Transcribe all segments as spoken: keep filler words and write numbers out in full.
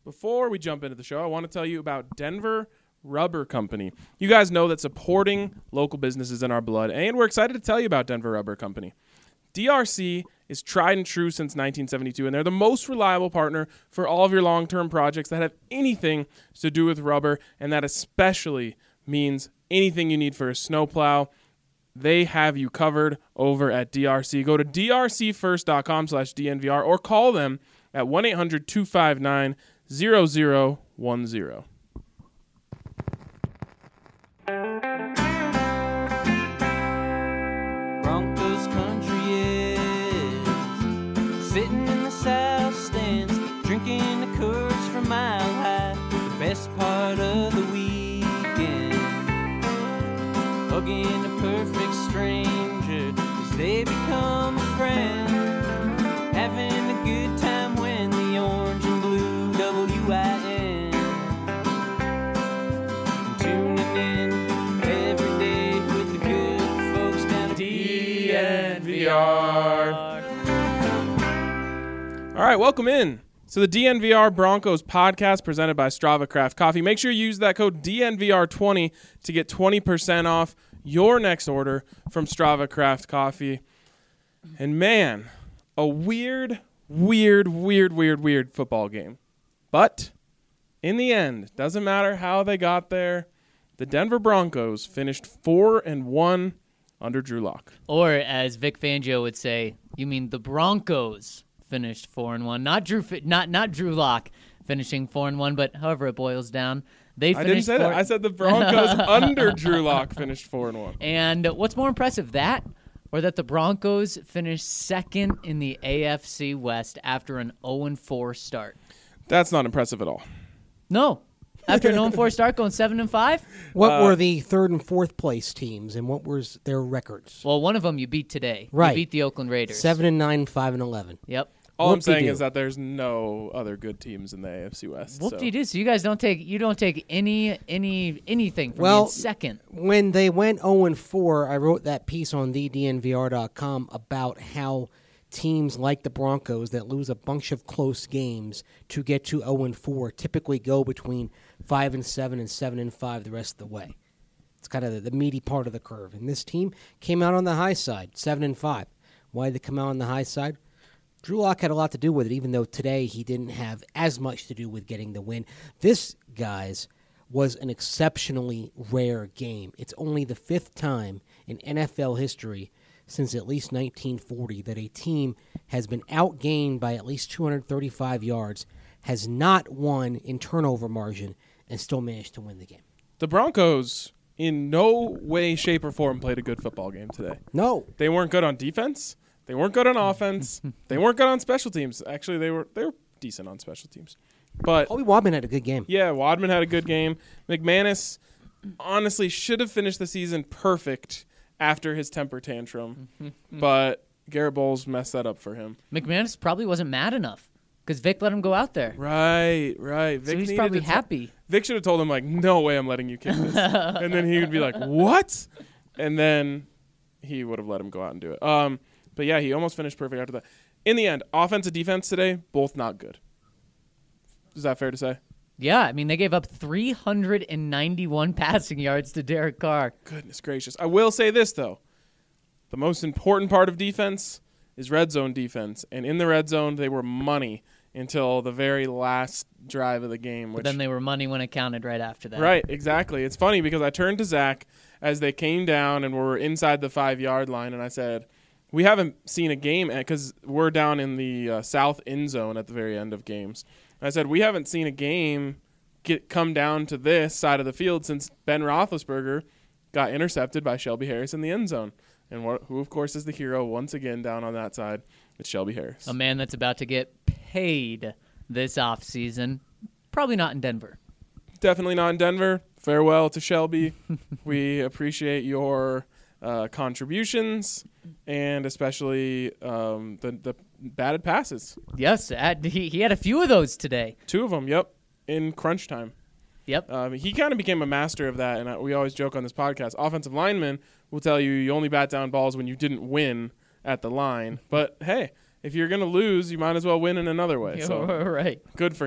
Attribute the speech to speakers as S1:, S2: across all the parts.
S1: before we jump into the show, I want to tell you about Denver Rubber Company. You guys know that supporting local businesses in our blood, and we're excited to tell you about Denver Rubber Company. D R C is tried and true since nineteen seventy-two, and they're the most reliable partner for all of your long-term projects that have anything to do with rubber, and that especially means anything you need for a snowplow. They have you covered over at D R C. Go to d r c first dot com slash d n v r or call them at one eight hundred two five nine zero zero one zero.
S2: Broncos country is sitting in the south stands, drinking the Coors from Mile High. The best part of the weekend, hugging a perfect stranger as they become a friend, having a good time when the orange and blue W I N, tuning in every day with the good folks down at D N V R.
S1: All right, welcome in to the D N V R Broncos podcast presented by Strava Craft Coffee. Make sure you use that code D N V R twenty to get twenty percent off your next order from Strava Craft Coffee. And man, a weird, weird, weird, weird, weird football game. But in the end, doesn't matter how they got there, the Denver Broncos finished four and one under Drew Lock.
S3: Or as Vic Fangio would say, you mean the Broncos finished four and one, not Drew, not not Drew Lock finishing four and one, but however it boils down, they finished.
S1: I didn't say
S3: four-
S1: that. I said the Broncos under Drew Lock finished four and one.
S3: And what's more impressive, that or that the Broncos finished second in the A F C West after an oh and four start?
S1: That's not impressive at all.
S3: No. After an oh and four start, going seven and five?
S4: What
S1: Uh,
S4: were the third and fourth place teams, and what was their records?
S3: Well, one of them you beat today.
S4: Right.
S3: You beat the Oakland Raiders.
S4: Seven and nine, five and eleven.
S3: Yep.
S1: All I'm saying
S4: Whoop-de-doo.
S1: is that there's no other good teams in the A F C West.
S3: Whoop
S1: so.
S3: de doo. So you guys don't take you don't take any any anything from
S4: Well,
S3: being second.
S4: When they went oh and four, I wrote that piece on the d n v r dot com about how teams like the Broncos that lose a bunch of close games to get to oh and four typically go between five and seven and seven and five the rest of the way. It's kind of the, the meaty part of the curve. And this team came out on the high side, seven and five. Why did they come out on the high side? Drew Lock had a lot to do with it, even though today he didn't have as much to do with getting the win. This, guys, was an exceptionally rare game. It's only the fifth time in N F L history since at least nineteen forty that a team has been outgained by at least two hundred thirty-five yards, has not won in turnover margin, and still managed to win the game.
S1: The Broncos, in no way, shape, or form, played a good football game today.
S4: No.
S1: They weren't good on defense. They weren't good on offense. They weren't good on special teams. Actually, they were they were decent on special teams. But
S4: Colby Wadman had a good game.
S1: yeah, Wadman had a good game. McManus honestly should have finished the season perfect after his temper tantrum, but Garrett Bowles messed that up for him.
S3: McManus probably wasn't mad enough because Vic let him go out there.
S1: Right, right. Vic
S3: So he's
S1: needed
S3: probably
S1: to t-
S3: happy.
S1: Vic should have told him, like, no way I'm letting you kick this. And then he would be like, what? And then he would have let him go out and do it. Um, but, yeah, he almost finished perfect after that. In the end, offense and defense today, both not good. Is that fair to say?
S3: Yeah, I mean, they gave up three hundred ninety-one passing yards to Derek Carr.
S1: Goodness gracious. I will say this, though. The most important part of defense is red zone defense. And in the red zone, they were money until the very last drive of the game. Which
S3: But then they were money when it counted right after that.
S1: Right, exactly. It's funny because I turned to Zach as they came down and were inside the five-yard line, and I said, we haven't seen a game because we're down in the uh, south end zone at the very end of games. And I said, we haven't seen a game get come down to this side of the field since Ben Roethlisberger got intercepted by Shelby Harris in the end zone. And wh- who, of course, is the hero once again down on that side? It's Shelby Harris.
S3: A man that's about to get paid this offseason. Probably not in Denver.
S1: Definitely not in Denver. Farewell to Shelby. We appreciate your uh, contributions and especially um, the, the batted passes.
S3: Yes, at, he, he had a few of those today.
S1: Two of them, yep, in crunch time.
S3: Yep.
S1: Um, he kind of became a master of that, and uh, we always joke on this podcast. Offensive linemen will tell you you only bat down balls when you didn't win at the line. But, hey, if you're going to lose, you might as well win in another way. So
S3: right.
S1: good for him.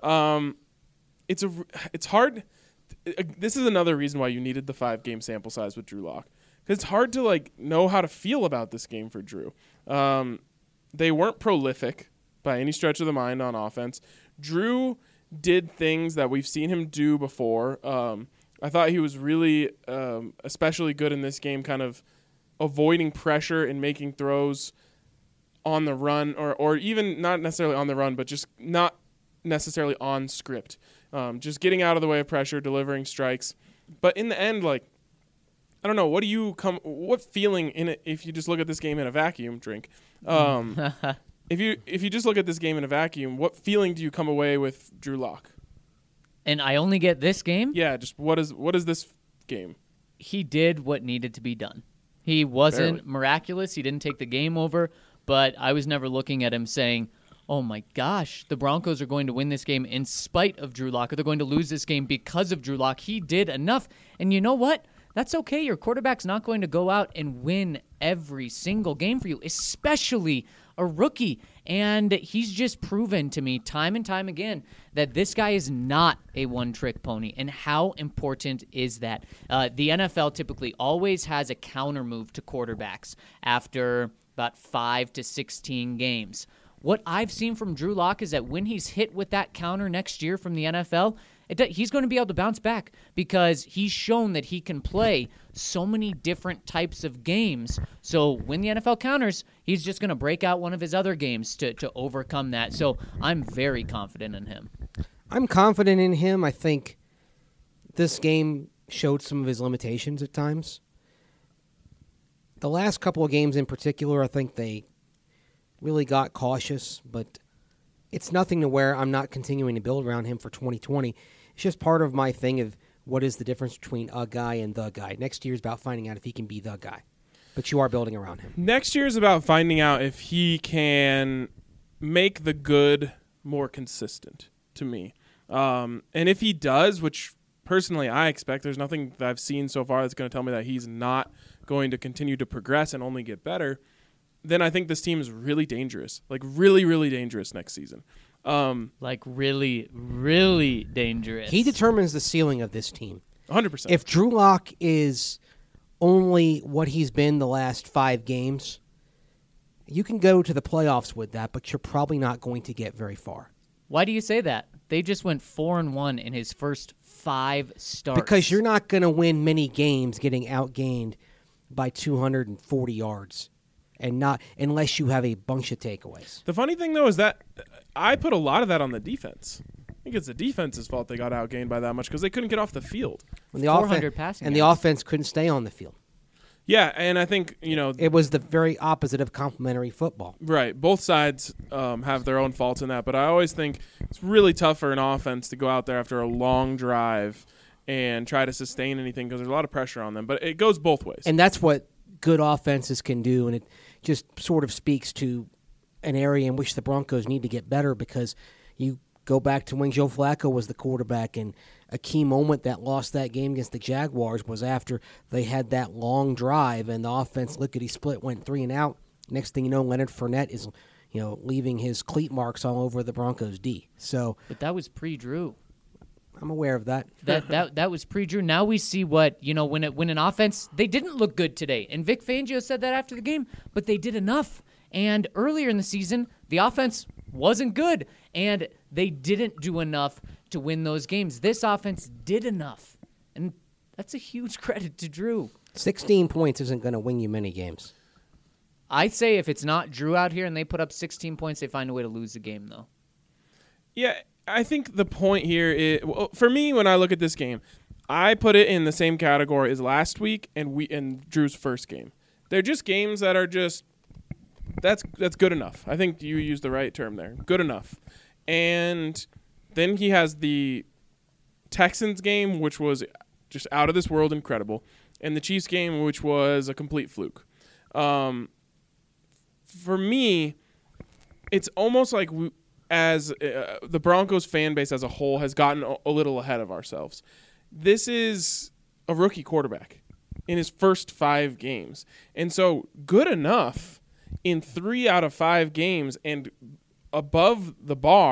S1: Um, it's a it's hard. This is another reason why you needed the five game sample size with Drew Lock, because it's hard to like know how to feel about this game for Drew. Um, they weren't prolific by any stretch of the mind on offense. Drew did things that we've seen him do before. Um, I thought he was really um, especially good in this game, kind of avoiding pressure and making throws on the run, or or even not necessarily on the run, but just not necessarily on script. Um, just getting out of the way of pressure, delivering strikes. But in the end, like, I don't know, what do you come, what feeling in it, if you just look at this game in a vacuum, drink, um, if you if you just look at this game in a vacuum, what feeling do you come away with Drew Lock?
S3: And I only get this game?
S1: Yeah, just what is what is this game?
S3: He did what needed to be done. He wasn't
S1: Barely.
S3: miraculous. He didn't take the game over, but I was never looking at him saying, oh my gosh, the Broncos are going to win this game in spite of Drew Lock, or they're going to lose this game because of Drew Lock. He did enough. And you know what? That's okay. Your quarterback's not going to go out and win every single game for you, especially a rookie. And he's just proven to me time and time again that this guy is not a one-trick pony. And how important is that? Uh, the N F L typically always has a counter move to quarterbacks after about five to sixteen games. What I've seen from Drew Lock is that when he's hit with that counter next year from the N F L, it, he's going to be able to bounce back because he's shown that he can play so many different types of games. So when the N F L counters, he's just going to break out one of his other games to, to overcome that. So I'm very confident in him.
S4: I'm confident in him. I think this game showed some of his limitations at times. The last couple of games in particular, I think they really got cautious, but it's nothing to where I'm not continuing to build around him for twenty twenty. It's just part of my thing of what is the difference between a guy and the guy. Next year is about finding out if he can be the guy, but you are building around him.
S1: Next year is about finding out if he can make the good more consistent, to me. Um, and if he does, which personally I expect, there's nothing that I've seen so far that's going to tell me that he's not going to continue to progress and only get better, then I think this team is really dangerous, like really, really dangerous next season. Um,
S3: Like really, really dangerous.
S4: He determines the ceiling of this team.
S1: one hundred percent.
S4: If Drew Lock is only what he's been the last five games, you can go to the playoffs with that, but you're probably not going to get very far.
S3: Why do you say that? They just went four and one in his first five starts.
S4: Because you're not going to win many games getting outgained by two hundred forty yards. And not unless you have a bunch of takeaways.
S1: The funny thing, though, is that I put a lot of that on the defense. I think it's the defense's fault they got outgained by that much because they couldn't get off the field.
S4: And the
S3: four hundred
S4: offen-
S3: passing
S4: and the
S3: yards.
S4: offense couldn't stay on the field.
S1: Yeah, and I think, you know,
S4: It was the very opposite of complementary football.
S1: right, both sides um, have their own faults in that, but I always think it's really tough for an offense to go out there after a long drive and try to sustain anything because there's a lot of pressure on them. But it goes both ways.
S4: And that's what good offenses can do, and it just sort of speaks to an area in which the Broncos need to get better because you go back to when Joe Flacco was the quarterback, and a key moment that lost that game against the Jaguars was after they had that long drive and the offense lickety-split went three and out. Next thing you know, Leonard Fournette is, you know, leaving his cleat marks all over the Broncos D. So
S3: But that was pre-Drew.
S4: I'm aware of that.
S3: That that that was pre-Drew. Now we see what, you know, when it when an offense, they didn't look good today. And Vic Fangio said that after the game, but they did enough. And earlier in the season, the offense wasn't good, and they didn't do enough to win those games. This offense did enough, and that's a huge credit to Drew.
S4: sixteen points isn't going to win you many games.
S3: I say if it's not Drew out here and they put up sixteen points, they find a way to lose the game, though.
S1: Yeah, I think the point here is, well, for me, when I look at this game, I put it in the same category as last week and we and Drew's first game. They're just games that are just that's that's good enough. I think you used the right term there. Good enough. And then he has the Texans game, which was just out of this world incredible, and the Chiefs game, which was a complete fluke. Um, for me, it's almost like we, as uh, the Broncos fan base as a whole has gotten a, a little ahead of ourselves. This is a rookie quarterback in his first five games. And so good enough in three out of five games and above the bar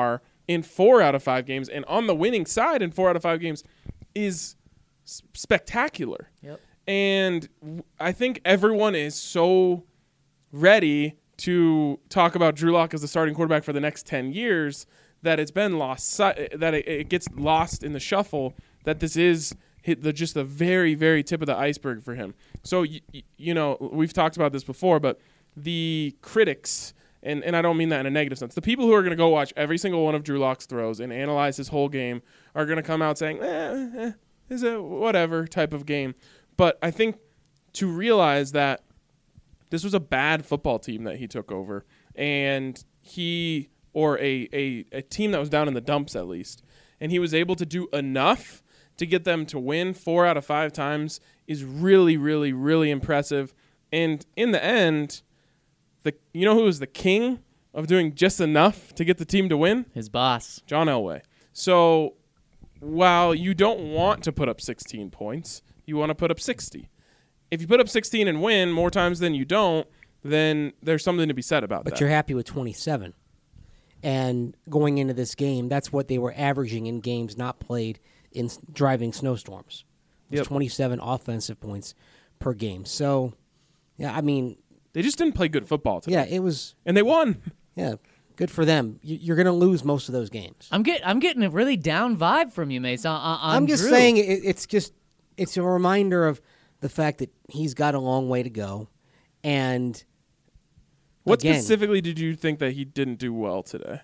S1: in four out of five games and on the winning side in four out of five games is s- spectacular.
S3: Yep.
S1: And w- I think everyone is so ready to talk about Drew Lock as the starting quarterback for the next ten years that it's been lost, si- that it, it gets lost in the shuffle, that this is hit the, just the very, very tip of the iceberg for him. So, y- y- you know, we've talked about this before, but the critics, and, and I don't mean that in a negative sense, the people who are going to go watch every single one of Drew Lock's throws and analyze his whole game are going to come out saying, eh, eh, is a whatever type of game. But I think to realize that this was a bad football team that he took over, and he, or a, a, a team that was down in the dumps at least, and he was able to do enough to get them to win four out of five times is really, really, really impressive. And in the end, the you know who was the king of doing just enough to get the team to win?
S3: His boss.
S1: John Elway. So while you don't want to put up sixteen points, you want to put up sixty. If you put up sixteen and win more times than you don't, then there's something to be said about
S4: But
S1: that.
S4: you're happy with twenty-seven. And going into this game, that's what they were averaging in games not played in s- driving snowstorms. It was
S1: Yep.
S4: twenty-seven offensive points per game. So, yeah, I mean,
S1: They just didn't play good football today.
S4: yeah, it was,
S1: And they won.
S4: yeah, good for them. You- You're going to lose most of those games.
S3: I'm get I'm getting a really down vibe from you, Mace. On, on
S4: I'm just
S3: Drew.
S4: saying it, it's just it's a reminder of the fact that he's got a long way to go. And
S1: What
S4: again,
S1: specifically did you think that he didn't do well today?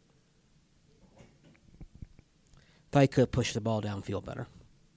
S4: thought he could push the ball downfield better.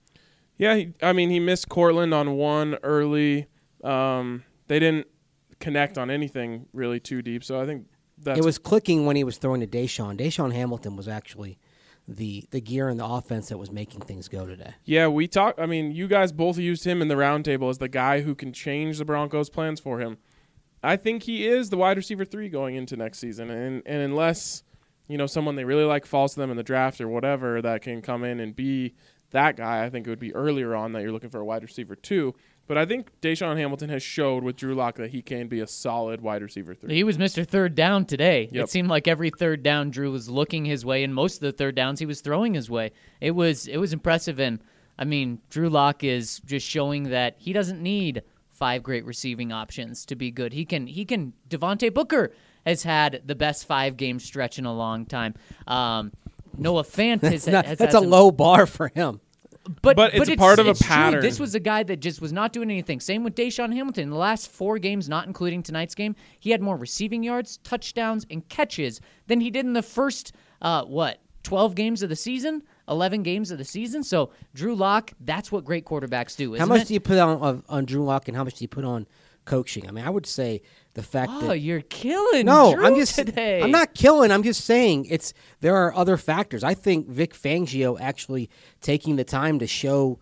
S1: Yeah, he, I mean, he missed Cortland on one early. Um, they didn't connect on anything really too deep, so I think that's
S4: It was clicking when he was throwing to Deshaun. Deshaun Hamilton was actually the the gear in the offense that was making things go today.
S1: Yeah, we talked. I mean, you guys both used him in the roundtable as the guy who can change the Broncos' plans for him. I think he is the wide receiver three going into next season, and and unless you know someone they really like falls to them in the draft or whatever that can come in and be that guy, I think it would be earlier on that you're looking for a wide receiver two. But I think Deshaun Hamilton has showed with Drew Lock that he can be a solid wide receiver three.
S3: He was Mister Third Down today.
S1: Yep.
S3: It seemed like every third down Drew was looking his way, and most of the third downs he was throwing his way. It was it was impressive, and I mean Drew Lock is just showing that he doesn't need five great receiving options to be good. He can he can. Devontae Booker has had the best five game stretch in a long time. Um, Noah Fant has,
S4: That's, not-
S3: has
S4: that's
S3: had
S4: a
S3: some-
S4: low bar for him.
S3: But,
S1: But it's a part of a
S3: it's true.
S1: pattern.
S3: This was a guy that just was not doing anything. Same with Deshaun Hamilton. In the last four games, not including tonight's game, he had more receiving yards, touchdowns, and catches than he did in the first, uh, what, twelve games of the season? eleven games of the season? So, Drew Lock, that's what great quarterbacks do, isn't
S4: How much
S3: it?
S4: do you put on of, on Drew Lock, and how much do you put on coaching? I mean, I would say the fact
S3: Oh,
S4: that
S3: you're killing
S4: no,
S3: Drew
S4: I'm just
S3: today.
S4: I'm not killing. I'm just saying it's there are other factors. I think Vic Fangio actually taking the time to show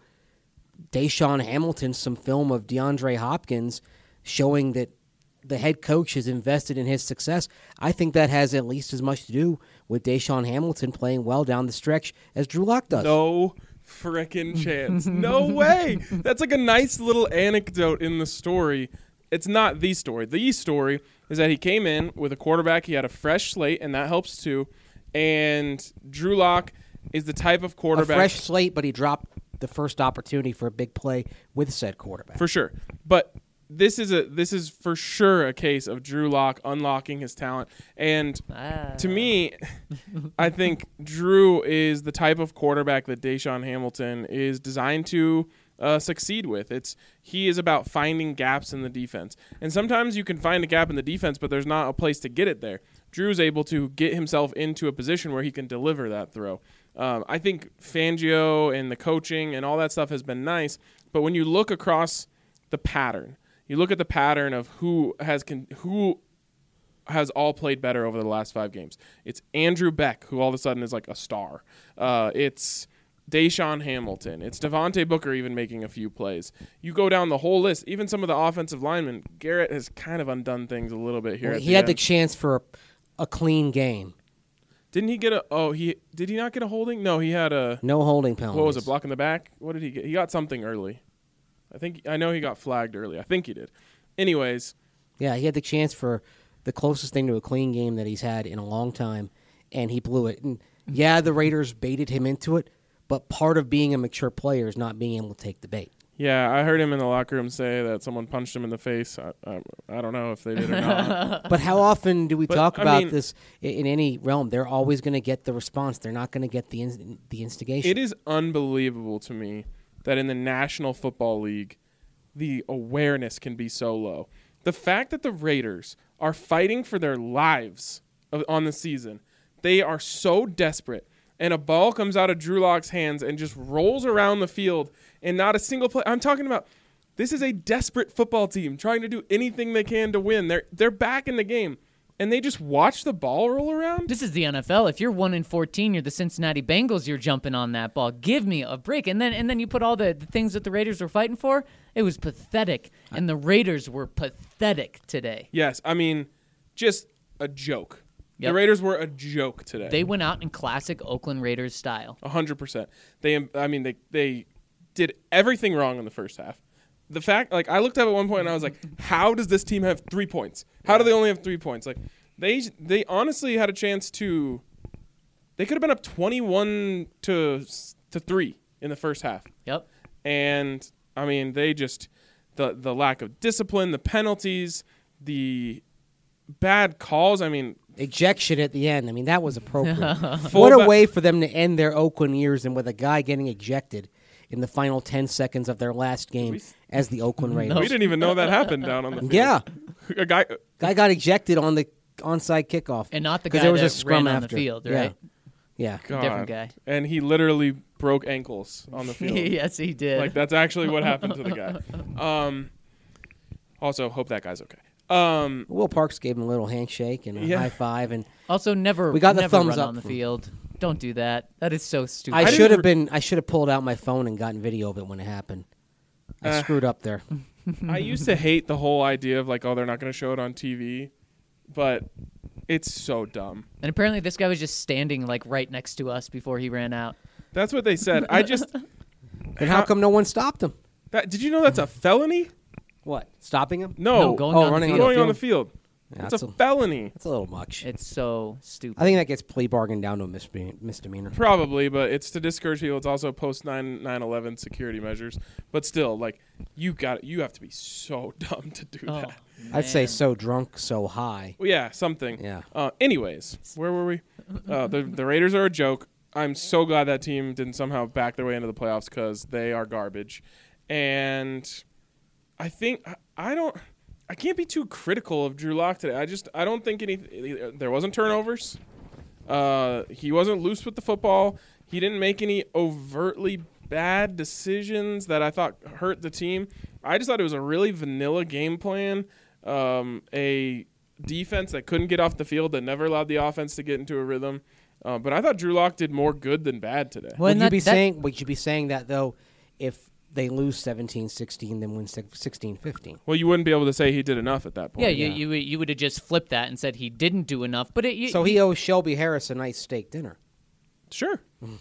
S4: Deshaun Hamilton some film of DeAndre Hopkins, showing that the head coach has invested in his success. I think that has at least as much to do with Deshaun Hamilton playing well down the stretch as Drew Lock does.
S1: No frickin' chance. No way. That's like a nice little anecdote in the story. It's not the story. The story is that he came in with a quarterback. He had a fresh slate, and that helps too. And Drew Lock is the type of
S4: A
S1: quarterback.
S4: fresh slate, but he dropped the first opportunity for a big play with said quarterback.
S1: For sure. But this is a this is for sure a case of Drew Lock unlocking his talent. And
S3: Ah.
S1: to me, I think Drew is the type of quarterback that Deshaun Hamilton is designed to uh, succeed with. It's he is about finding gaps in the defense. And sometimes you can find a gap in the defense, but there's not a place to get it there. Drew's able to get himself into a position where he can deliver that throw. Um, I think Fangio and the coaching and all that stuff has been nice, but when you look across the pattern, you look at the pattern of who has con- who has all played better over the last five games. It's Andrew Beck, who all of a sudden is like a star. Uh, it's Deshaun Hamilton. It's Devontae Booker even making a few plays. You go down the whole list, even some of the offensive linemen, Garrett has kind of undone things a little bit here.
S4: Well,
S1: at
S4: he
S1: the
S4: had the
S1: end.
S4: chance for a, a clean game.
S1: Didn't he get a oh he did he not get a holding? No, he had a
S4: No holding penalties.
S1: what was it, block in the back? What did he get? He got something early. I think I know he got flagged early. I think he did. Anyways,
S4: Yeah, he had the chance for the closest thing to a clean game that he's had in a long time, and he blew it. And Yeah, the Raiders baited him into it, but part of being a mature player is not being able to take the bait.
S1: Yeah, I heard him in the locker room say that someone punched him in the face. I, I, I don't know if they did or not.
S4: But how often do we
S1: But,
S4: talk
S1: I
S4: about
S1: mean-
S4: this i- in any realm? They're always going to get the response. They're not going to get the in, the instigation.
S1: It is unbelievable to me that in the National Football League, the awareness can be so low. The fact that the Raiders are fighting for their lives of- on the season, they are so desperate, and a ball comes out of Drew Lock's hands and just rolls around the field, and not a single play. I'm talking about this is a desperate football team trying to do anything they can to win. They're they're back in the game, and they just watch the ball roll around.
S3: This is the N F L. If you're one in fourteen, you're the Cincinnati Bengals. You're jumping on that ball. Give me a break. And then and then you put all the, the things that the Raiders were fighting for. It was pathetic, and the Raiders were pathetic today.
S1: Yes, I mean, just a joke.
S3: Yep.
S1: The Raiders were a joke today.
S3: They went out in classic Oakland Raiders style.
S1: A hundred percent. They, I mean, they they did everything wrong in the first half. The fact, like, I looked up at one point and I was like, how does this team have three points? How do they only have three points? Like, they they honestly had a chance to. They could have been up twenty-one to to three in the first half.
S3: Yep.
S1: And I mean, they just the the lack of discipline, the penalties, the bad calls. I mean,
S4: Ejection at the end. I mean, that was appropriate.
S1: full
S4: What a
S1: ba-
S4: way for them to end their Oakland years and with a guy getting ejected in the final ten seconds of their last game
S1: We-
S4: as the Oakland Raiders.
S1: we didn't even know that happened down on the field.
S4: Yeah.
S1: A guy.
S4: Guy got ejected on the onside kickoff.
S3: And not the
S4: 'Cause
S3: guy
S4: there was
S3: that
S4: a scrum
S3: ran on
S4: after.
S3: the field,
S4: Yeah.
S3: right?
S4: Yeah.
S1: God.
S3: Different guy.
S1: And he literally broke ankles on the field.
S3: Yes, he did.
S1: Like, that's actually what happened to the guy. Um, also, hope that guy's okay. Um,
S4: Will Parks gave him a little handshake and a
S1: Yeah.
S4: high five, and
S3: Also, never
S4: We got the
S3: never
S4: thumbs
S3: run
S4: up
S3: on the
S4: from-
S3: field. Don't do that. That is so stupid.
S4: I,
S1: didn't
S4: should have
S1: re-
S4: been. I should have pulled out my phone and gotten video of it when it happened. I
S1: Uh,
S4: screwed up there.
S1: I used to hate the whole idea of like, oh, they're not going to show it on T V, but it's so dumb.
S3: And apparently, this guy was just standing like right next to us before he ran out.
S1: That's what they said. I just
S4: And how come no one stopped him?
S1: that, did you know that's a felony?
S4: What? Stopping him?
S1: No,
S3: No, going
S4: oh,
S3: on
S4: running
S3: the
S4: on
S3: field.
S1: going on the field.
S4: Yeah,
S1: It's
S4: that's,
S1: a
S4: a,
S1: felony.
S4: that's a little much.
S3: It's so stupid.
S4: I think that gets plea bargained down to a misbe- misdemeanor.
S1: Probably, but it's to discourage people. It's also post nine eleven security measures. But still, like, you got you have to be so dumb to do
S3: Oh,
S1: that.
S4: I'd say
S3: man.
S4: so drunk, so high.
S1: Well, yeah, something.
S4: Yeah.
S1: Uh, anyways, where were we? Uh, the the Raiders are a joke. I'm so glad that team didn't somehow back their way into the playoffs because they are garbage. And I think I, I don't. I can't be too critical of Drew Lock today. I just I don't think any. There wasn't turnovers. Uh, he wasn't loose with the football. He didn't make any overtly bad decisions that I thought hurt the team. I just thought it was a really vanilla game plan. Um, a defense that couldn't get off the field, that never allowed the offense to get into a rhythm. Uh, but I thought Drew Lock did more good than bad today.
S3: Well,
S4: would
S3: and
S4: you
S3: that-
S4: be
S3: that-
S4: saying? Would you be saying that though, if they lose seventeen sixteen, then win sixteen fifteen?
S1: Well, you wouldn't be able to say he did enough at that point.
S3: Yeah, you
S4: Yeah.
S3: you would- you would have just flipped that and said he didn't do enough. But it, you,
S4: So he owes Shelby Harris a nice steak dinner.
S1: Sure.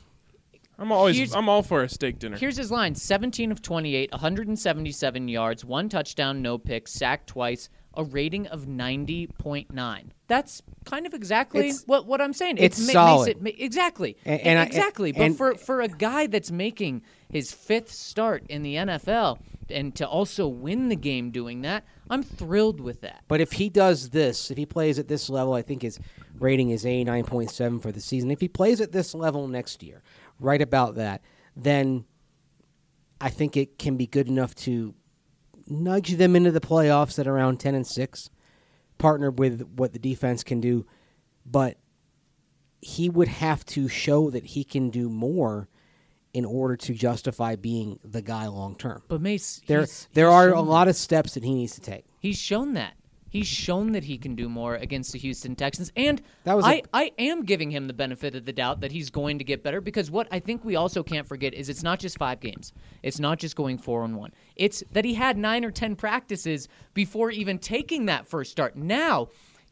S1: I'm always
S3: Here's-
S1: I'm all for a steak dinner.
S3: Here's his line: seventeen of twenty-eight, one hundred seventy-seven yards, one touchdown, no picks, sacked twice, a rating of ninety point nine. That's kind of exactly
S4: It's-
S3: what, what I'm saying.
S4: it's
S3: ma-
S4: solid.
S3: Makes it, ma- exactly.
S4: And- and I-
S3: exactly.
S4: and-
S3: but
S4: and-
S3: for, for a guy that's making his fifth start in the N F L and to also win the game doing that, I'm thrilled with that.
S4: But if he does this, if he plays at this level, I think his rating is eighty-nine point seven for the season. If he plays at this level next year, right about that, then I think it can be good enough to nudge them into the playoffs at around ten and six, partner with what the defense can do. But he would have to show that he can do more in order to justify being the guy long term.
S3: But Mace,
S4: There,
S3: he's-
S4: there
S3: he's
S4: are a
S3: shown
S4: lot of steps that he needs to take.
S3: He's shown that. He's shown that he can do more against the Houston Texans. And
S4: That was
S3: I
S4: a-
S3: I am giving him the benefit of the doubt that he's going to get better, because what I think we also can't forget is it's not just five games. It's not just going four and one. It's that he had nine or ten practices before even taking that first start. Now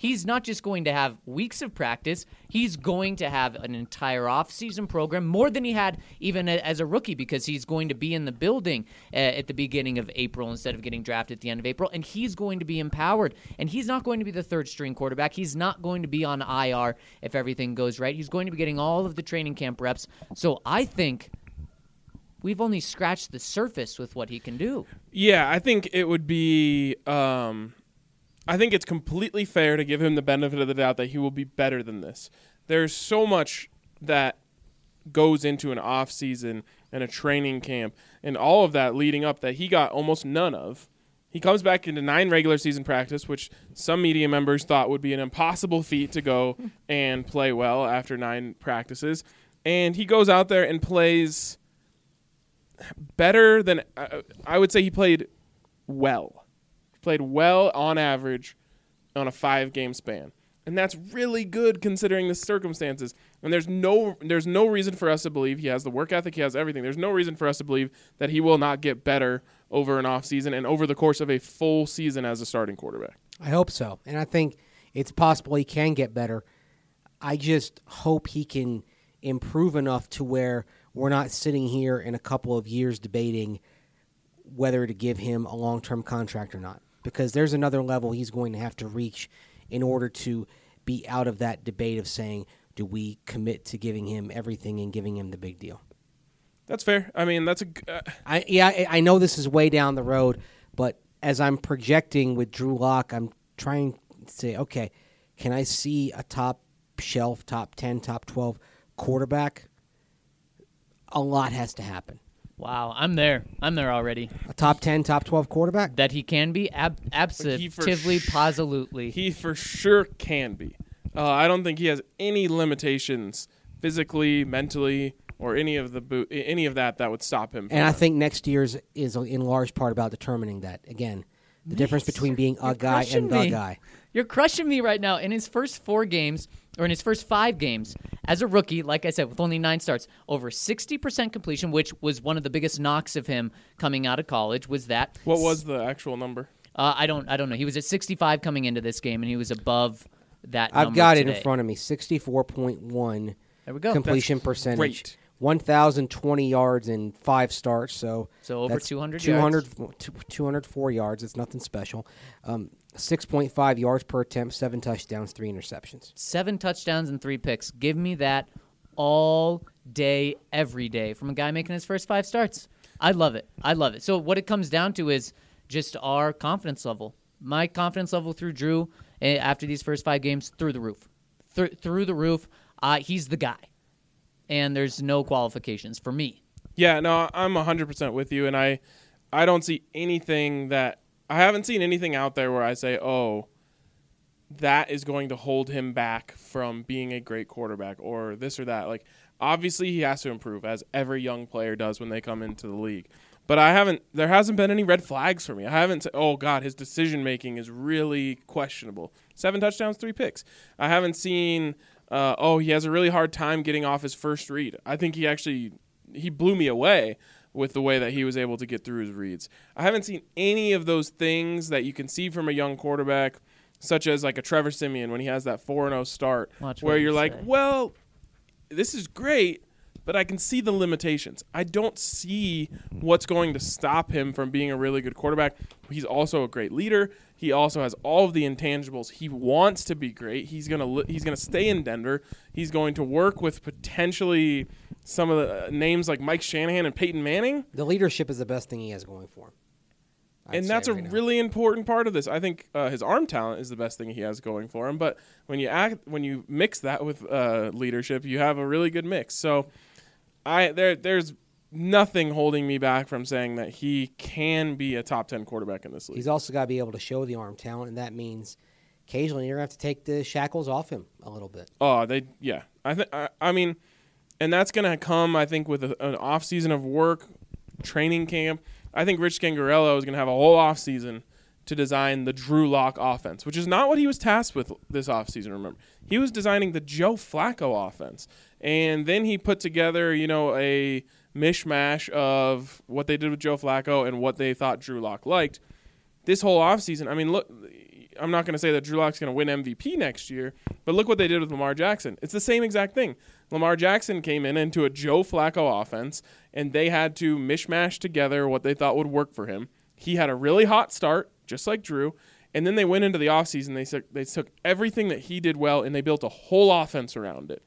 S3: he's not just going to have weeks of practice, he's going to have an entire off-season program, more than he had even a, as a rookie, because he's going to be in the building uh, at the beginning of April instead of getting drafted at the end of April, and he's going to be empowered. And he's not going to be the third-string quarterback. He's not going to be on I R if everything goes right. He's going to be getting all of the training camp reps. So I think we've only scratched the surface with what he can do.
S1: Yeah, I think it would be um, – I think it's completely fair to give him the benefit of the doubt that he will be better than this. There's so much that goes into an off season and a training camp and all of that leading up that he got almost none of. He comes back into nine regular season practice, which some media members thought would be an impossible feat to go and play well after nine practices. And he goes out there and plays better than uh, I would say he played well. He played well on average on a five-game span. And that's really good considering the circumstances. And there's no there's no reason for us to believe he has the work ethic, he has everything. There's no reason for us to believe that he will not get better over an offseason and over the course of a full season as a starting quarterback.
S4: I hope so. And I think it's possible he can get better. I just hope he can improve enough to where we're not sitting here in a couple of years debating whether to give him a long-term contract or not. Because there's another level he's going to have to reach in order to be out of that debate of saying, do we commit to giving him everything and giving him the big deal?
S1: That's fair. I mean, that's a. Uh,
S4: I yeah, I, I know this is way down the road, but as I'm projecting with Drew Lock, I'm trying to say, okay, can I see a top shelf, top ten, top twelve quarterback? A lot has to happen.
S3: Wow, I'm there. I'm there already.
S4: A top ten, top twelve quarterback?
S3: That he can be? Ab- absolutely,
S1: sh-
S3: positively.
S1: He for sure can be. Uh, I don't think he has any limitations physically, mentally, or any of the bo- any of that that would stop him. From
S4: and I
S1: that.
S4: think next year's is in large part about determining that. Again, the
S3: Nice.
S4: difference between being a
S3: You're
S4: guy
S3: crushing
S4: and the
S3: me.
S4: guy.
S3: You're crushing me right now. In his first four games, or in his first five games, as a rookie, like I said, with only nine starts, over sixty percent completion, which was one of the biggest knocks of him coming out of college, was that.
S1: What was the actual number?
S3: Uh, I don't I don't know. He was at sixty-five coming into this game, and he was above that
S4: I've
S3: number
S4: got it
S3: today.
S4: in front of me. sixty-four point one
S3: There we go.
S4: completion
S1: That's
S4: percentage.
S1: great.
S4: one thousand twenty yards in five starts. So,
S3: So over
S4: that's
S3: two hundred
S4: two hundred,
S3: yards.
S4: two hundred four yards. It's nothing special. Um, six point five yards per attempt, seven touchdowns, three interceptions.
S3: Seven touchdowns and three picks. Give me that all day, every day from a guy making his first five starts. I love it. I love it. So what it comes down to is just our confidence level. My confidence level through Drew eh, after these first five games, through the roof. Through, through the roof. Uh, he's the guy. And there's no qualifications for me.
S1: Yeah, no, I'm one hundred percent with you, and I, I don't see anything that I haven't seen anything out there where I say, oh, that is going to hold him back from being a great quarterback or this or that. Like, obviously, he has to improve, as every young player does when they come into the league. But I haven't. There hasn't been any red flags for me. I haven't said, oh, God, his decision-making is really questionable. Seven touchdowns, three picks. I haven't seen, uh, oh, he has a really hard time getting off his first read. I think he actually, he blew me away with the way that he was able to get through his reads. I haven't seen any of those things that you can see from a young quarterback, such as like a Trevor Siemian when he has that four and oh start,
S3: Watch
S1: where
S3: what you
S1: you're like,
S3: say.
S1: well, this is great, but I can see the limitations. I don't see what's going to stop him from being a really good quarterback. He's also a great leader. He also has all of the intangibles. He wants to be great. He's gonna li- he's gonna stay in Denver. He's going to work with potentially some of the uh, names like Mike Shanahan and Peyton Manning.
S4: The leadership is the best thing he has going for him. I'd
S1: And
S4: say
S1: that's a
S4: right now.
S1: really important part of this. I think uh, his arm talent is the best thing he has going for him. But when you act, when you mix that with uh, leadership, you have a really good mix. So, I there there's nothing holding me back from saying that he can be a top ten quarterback in this league.
S4: He's also got to be able to show the arm talent, and that means occasionally you're going to have to take the shackles off him a little bit.
S1: Oh, they yeah. I think I, I mean, and that's gonna come. I think with a, an off season of work, training camp. I think Rich Scangarello is gonna have a whole off season to design the Drew Lock offense, which is not what he was tasked with this off season. Remember, he was designing the Joe Flacco offense, and then he put together, you know, a mishmash of what they did with Joe Flacco and what they thought Drew Lock liked. This whole offseason, I mean, look, I'm not going to say that Drew Lock's going to win M V P next year, but look what they did with Lamar Jackson. It's the same exact thing. Lamar Jackson came in into a Joe Flacco offense, and they had to mishmash together what they thought would work for him. He had a really hot start, just like Drew, and then they went into the offseason. They took, they took everything that he did well, and they built a whole offense around it.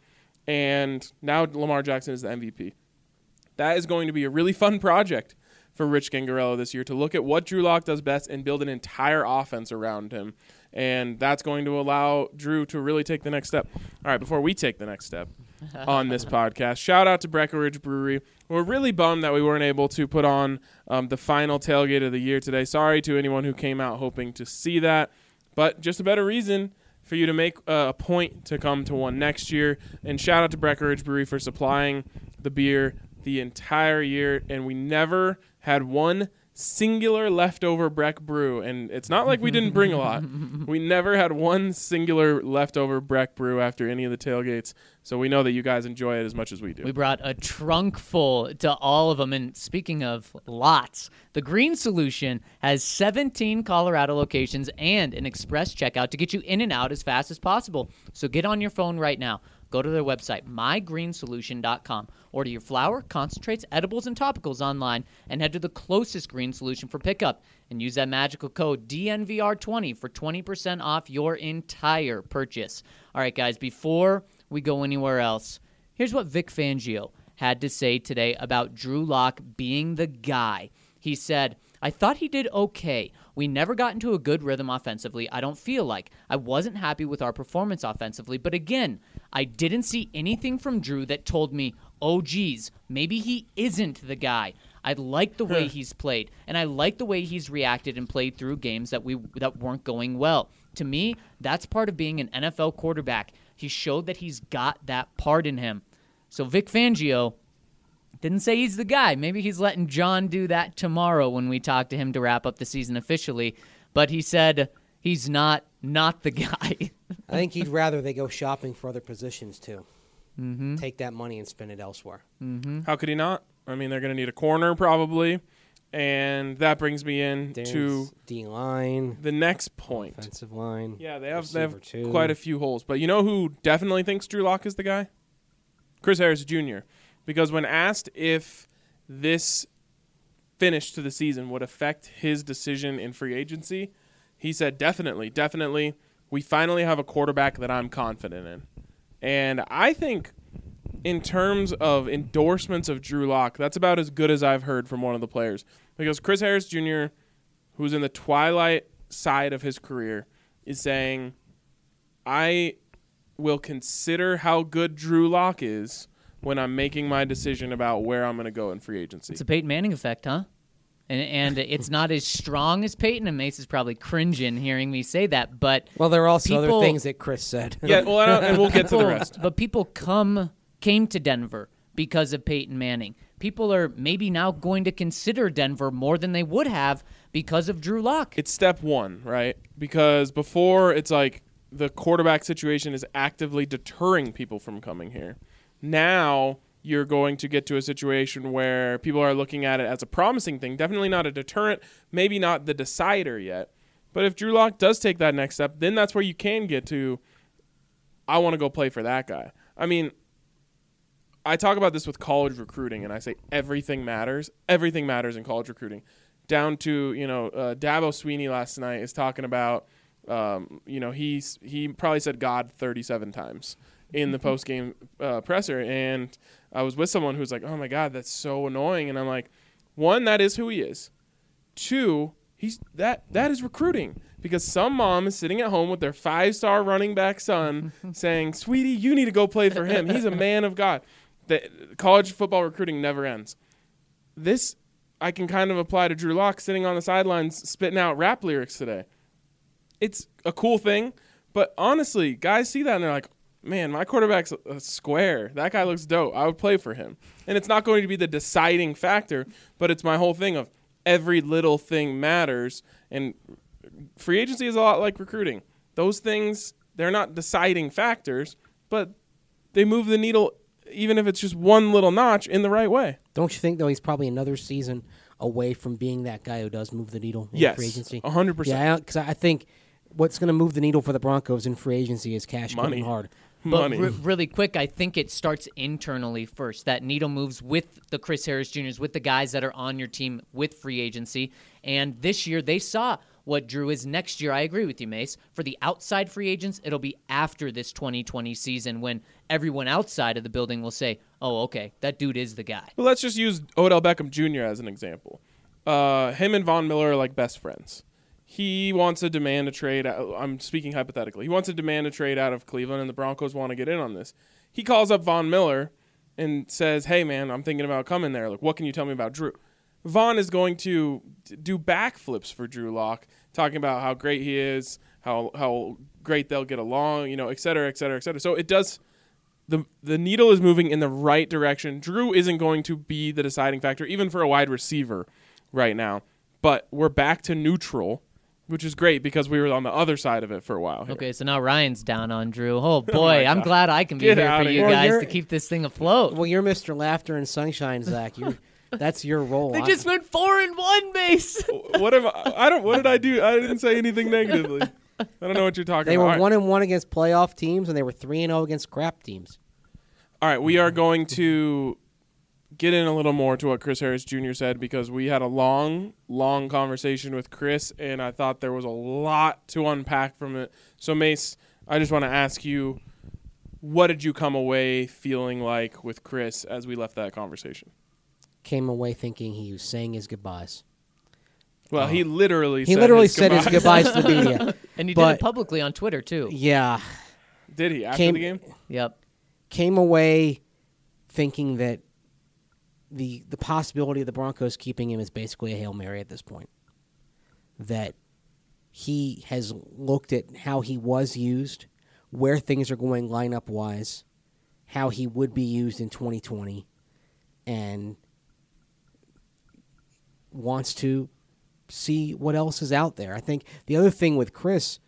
S1: And now Lamar Jackson is the M V P. That is going to be a really fun project for Rich Gangarello this year, to look at what Drew Lock does best and build an entire offense around him. And that's going to allow Drew to really take the next step. All right, before we take the next step on this podcast, shout out to Breckenridge Brewery. We're really bummed that we weren't able to put on um, the final tailgate of the year today. Sorry to anyone who came out hoping to see that, but just a better reason for you to make uh, a point to come to one next year. And shout out to Breckenridge Brewery for supplying the beer the entire year, and we never had one singular leftover Breck brew. And it's not like we didn't bring a lot. We never had one singular leftover Breck brew after any of the tailgates. So we know that you guys enjoy it as much as we do.
S3: We brought a trunk full to all of them. And speaking of lots, the Green Solution has seventeen Colorado locations and an express checkout to get you in and out as fast as possible. So get on your phone right now. Go to their website, my green solution dot com. Order your flour, concentrates, edibles, and topicals online, and head to the closest Green Solution for pickup. And use that magical code D N V R twenty for twenty percent off your entire purchase. All right, guys, before we go anywhere else, here's what Vic Fangio had to say today about Drew Lock being the guy. He said, I thought he did okay. We never got into a good rhythm offensively, I don't feel like. I wasn't happy with our performance offensively, but again, I didn't see anything from Drew that told me, oh, geez, maybe he isn't the guy. I like the way he's played, and I like the way he's reacted and played through games that we that weren't going well. To me, that's part of being an N F L quarterback. He showed that he's got that part in him. So Vic Fangio didn't say he's the guy. Maybe he's letting John do that tomorrow when we talk to him to wrap up the season officially. But he said he's not not the guy.
S4: I think he'd rather they go shopping for other positions, too.
S3: Mm-hmm.
S4: Take that money and spend it elsewhere.
S3: Mm-hmm.
S1: How could he not? I mean, they're going to need a corner probably. And that brings me in
S4: Dance,
S1: to
S4: D-line,
S1: the next point.
S4: offensive line.
S1: Yeah, they have, they have
S4: receiver two.
S1: quite a few holes. But you know who definitely thinks Drew Lock is the guy? Chris Harris Junior Because when asked if this finish to the season would affect his decision in free agency, he said, definitely, definitely. We finally have a quarterback that I'm confident in. And I think in terms of endorsements of Drew Lock, that's about as good as I've heard from one of the players. Because Chris Harris Junior, who's in the twilight side of his career, is saying, I will consider how good Drew Lock is when I'm making my decision about where I'm going to go in free agency.
S3: It's a Peyton Manning effect, huh? And and it's not as strong as Peyton, and Mace is probably cringing hearing me say that, but
S4: Well, there are also
S3: people,
S4: other things that Chris said.
S1: Yeah, well, I don't- and we'll get to the
S3: people-
S1: rest.
S3: But people come came to Denver because of Peyton Manning. People are maybe now going to consider Denver more than they would have because of Drew Lock.
S1: It's step one, right? Because before, it's like the quarterback situation is actively deterring people from coming here. Now you're going to get to a situation where people are looking at it as a promising thing. Definitely not a deterrent, maybe not the decider yet. But if Drew Lock does take that next step, then that's where you can get to, I want to go play for that guy. I mean, I talk about this with college recruiting, and I say everything matters. Everything matters in college recruiting. Down to, you know, uh, Dabo Sweeney last night is talking about, um, you know, he's, he probably said God thirty-seven times in the post-game uh, presser. And I was with someone who was like, oh, my God, that's so annoying. And I'm like, one, that is who he is. Two, he's that that is recruiting. Because some mom is sitting at home with their five-star running back son saying, sweetie, you need to go play for him. He's a man of God. The, college football recruiting never ends. This I can kind of apply to Drew Lock sitting on the sidelines spitting out rap lyrics today. It's a cool thing, but honestly, guys see that and they're like, man, my quarterback's a square. That guy looks dope. I would play for him. And it's not going to be the deciding factor, but it's my whole thing of every little thing matters. And free agency is a lot like recruiting. Those things, they're not deciding factors, but they move the needle even if it's just one little notch in the right way.
S4: Don't you think, though, he's probably another season away from being that guy who does move the needle in
S1: Yes,
S4: free agency?
S1: one hundred percent.
S4: Yeah, because I think what's going to move the needle for the Broncos in free agency is cash
S1: Money.
S4: coming hard.
S3: But
S1: Money.
S3: re- really quick, I think it starts internally first. That needle moves with the Chris Harris Juniors, with the guys that are on your team with free agency. And this year, they saw what Drew is. Next year, I agree with you, Mace. For the outside free agents, it'll be after this twenty twenty season when everyone outside of the building will say, oh, okay, that dude is the guy.
S1: Well, let's just use Odell Beckham Junior as an example. Uh, him and Von Miller are like best friends. He wants to demand a trade. I'm speaking hypothetically. He wants to demand a trade out of Cleveland, and the Broncos want to get in on this. He calls up Von Miller and says, hey, man, I'm thinking about coming there. Like, what can you tell me about Drew? Von is going to do backflips for Drew Lock, talking about how great he is, how how great they'll get along, you know, et cetera, et cetera, et cetera. So it does the the needle is moving in the right direction. Drew isn't going to be the deciding factor, even for a wide receiver right now. But we're back to neutral, which is great because we were on the other side of it for a while here.
S3: Okay, so now Ryan's down on Drew. Oh, boy, I'm
S1: God.
S3: glad I can be
S1: Get
S3: here
S1: outta
S3: for you
S1: here.
S4: Well,
S3: guys
S4: you're-
S3: to keep this thing afloat.
S4: Well, you're Mister Laughter and Sunshine, Zach. You're, that's your role.
S3: They
S4: I-
S3: just went four and one, Mace.
S1: What am I, I don't. What did I do? I didn't say anything negatively. I don't know what you're talking
S4: they
S1: about.
S4: were
S1: All right.
S4: one and one against playoff teams, and they were three and zero against crap teams.
S1: All right, we are going to get in a little more to what Chris Harris Junior said because we had a long, long conversation with Chris, and I thought there was a lot to unpack from it. So, Mace, I just want to ask you, what did you come away feeling like with Chris as we left that conversation?
S4: Came away thinking he was saying his goodbyes.
S1: Well, he literally
S4: He
S1: said
S4: literally
S1: his
S4: said his
S1: goodbyes.
S4: goodbyes to the media.
S3: And he did
S4: But-
S3: it publicly on Twitter, too.
S4: Yeah,
S1: Did he after
S4: Came-
S1: the game?
S3: Yep.
S4: came away thinking that the the possibility of the Broncos keeping him is basically a Hail Mary at this point. That he has looked at how he was used, where things are going lineup wise, how he would be used in twenty twenty, and wants to see what else is out there. I think the other thing with Chris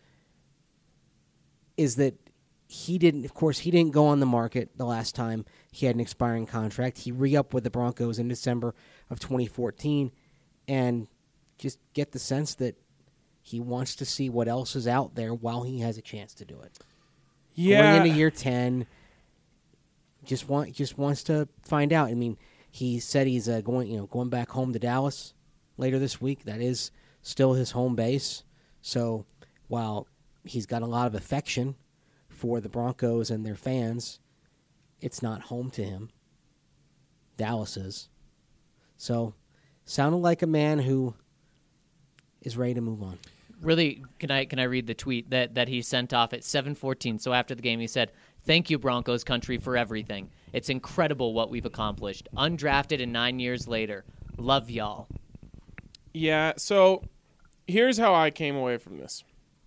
S4: is that he didn't, of course, he didn't go on the market the last time he had an expiring contract. He re-upped with the Broncos in December of twenty fourteen, and just get the sense that he wants to see what else is out there while he has a chance to do it.
S1: Yeah.
S4: Going into year ten, just want just wants to find out. I mean, he said he's uh, going, you know, going back home to Dallas later this week. That is still his home base. So while he's got a lot of affection for the Broncos and their fans, it's not home to him. Dallas is. So, sounded like a man who is ready to move on.
S3: Really, can I can I read the tweet that, that he sent off at seven fourteen? So after the game, he said, "Thank you, Broncos country, for everything. It's incredible what we've accomplished. Undrafted and nine years later. Love y'all."
S1: Yeah, so here's how I came away from this.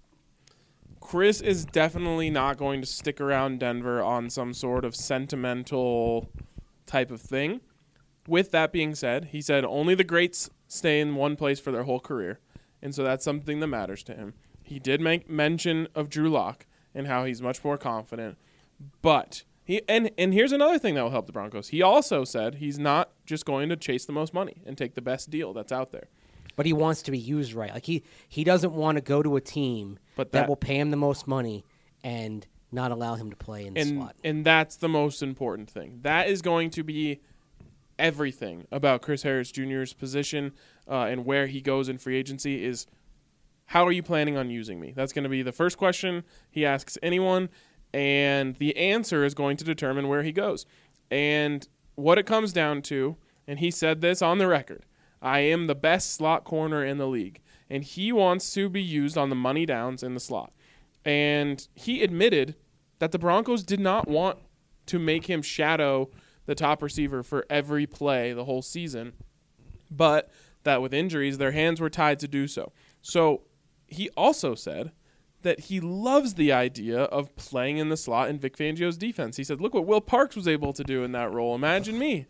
S1: Chris is definitely not going to stick around Denver on some sort of sentimental type of thing. With that being said, he said only the greats stay in one place for their whole career, and so that's something that matters to him. He did make mention of Drew Lock and how he's much more confident, but he and and here's another thing that will help the Broncos. He also said he's not just going to chase the most money and take the best deal that's out there.
S4: But he wants to be used right. Like he, he doesn't want to go to a team
S1: But
S4: that,
S1: that-
S4: will pay him the most money and not allow him to play in the
S1: and
S4: slot.
S1: and that's the most important thing. That is going to be everything about Chris Harris Junior's position uh, and where he goes in free agency is how are you planning on using me? That's going to be the first question he asks anyone, and the answer is going to determine where he goes. And what it comes down to, and he said this on the record, I am the best slot corner in the league, and he wants to be used on the money downs in the slot. And he admitted that the Broncos did not want to make him shadow the top receiver for every play the whole season, but that with injuries, their hands were tied to do so. So he also said that he loves the idea of playing in the slot in Vic Fangio's defense. He said, look what Will Parks was able to do in that role. Imagine me.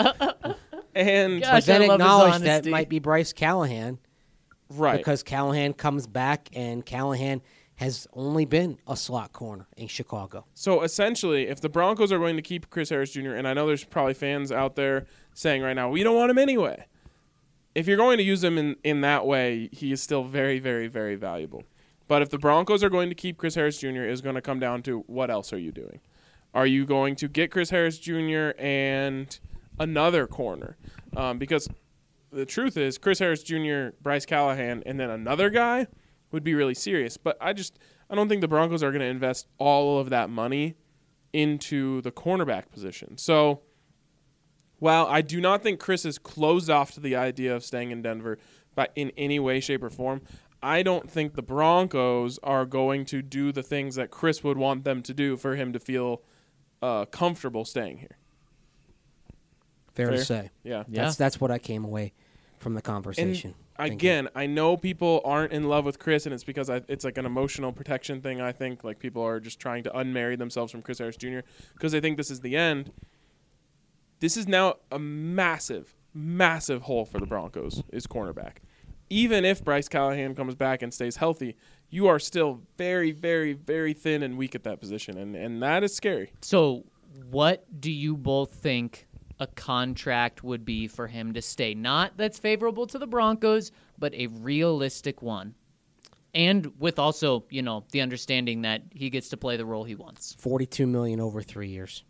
S1: and
S3: Gosh,
S4: But then
S3: I love his
S4: acknowledge that
S3: honesty.
S4: might be Bryce Callahan
S1: right.
S4: because Callahan comes back and Callahan has only been a slot corner in Chicago.
S1: So essentially, if the Broncos are going to keep Chris Harris Junior, and I know there's probably fans out there saying right now, we don't want him anyway. If you're going to use him in, in that way, he is still very, very, very valuable. But if the Broncos are going to keep Chris Harris Junior, it's going to come down to what else are you doing? Are you going to get Chris Harris Junior and another corner? Um, because the truth is, Chris Harris Junior, Bryce Callahan, and then another guy would be really serious. But I just I don't think the Broncos are going to invest all of that money into the cornerback position. So while I do not think Chris is closed off to the idea of staying in Denver but in any way, shape, or form, I don't think the Broncos are going to do the things that Chris would want them to do for him to feel uh, comfortable staying here.
S4: Fair,
S1: Fair?
S4: to say.
S1: Yeah.
S3: Yeah.
S4: That's that's what I came away from the conversation. thinking.
S1: Again, I know people aren't in love with Chris, and it's because I, it's like an emotional protection thing, I think. Like, people are just trying to unmarry themselves from Chris Harris Junior because they think this is the end. This is now a massive, massive hole for the Broncos is cornerback. Even if Bryce Callahan comes back and stays healthy, you are still very, very, very thin and weak at that position, and, and that is scary.
S3: So, what do you both think a contract would be for him to stay? Not that's favorable to the Broncos, but a realistic one. And with also, you know, the understanding that he gets to play the role he wants.
S4: forty-two million dollars over three years.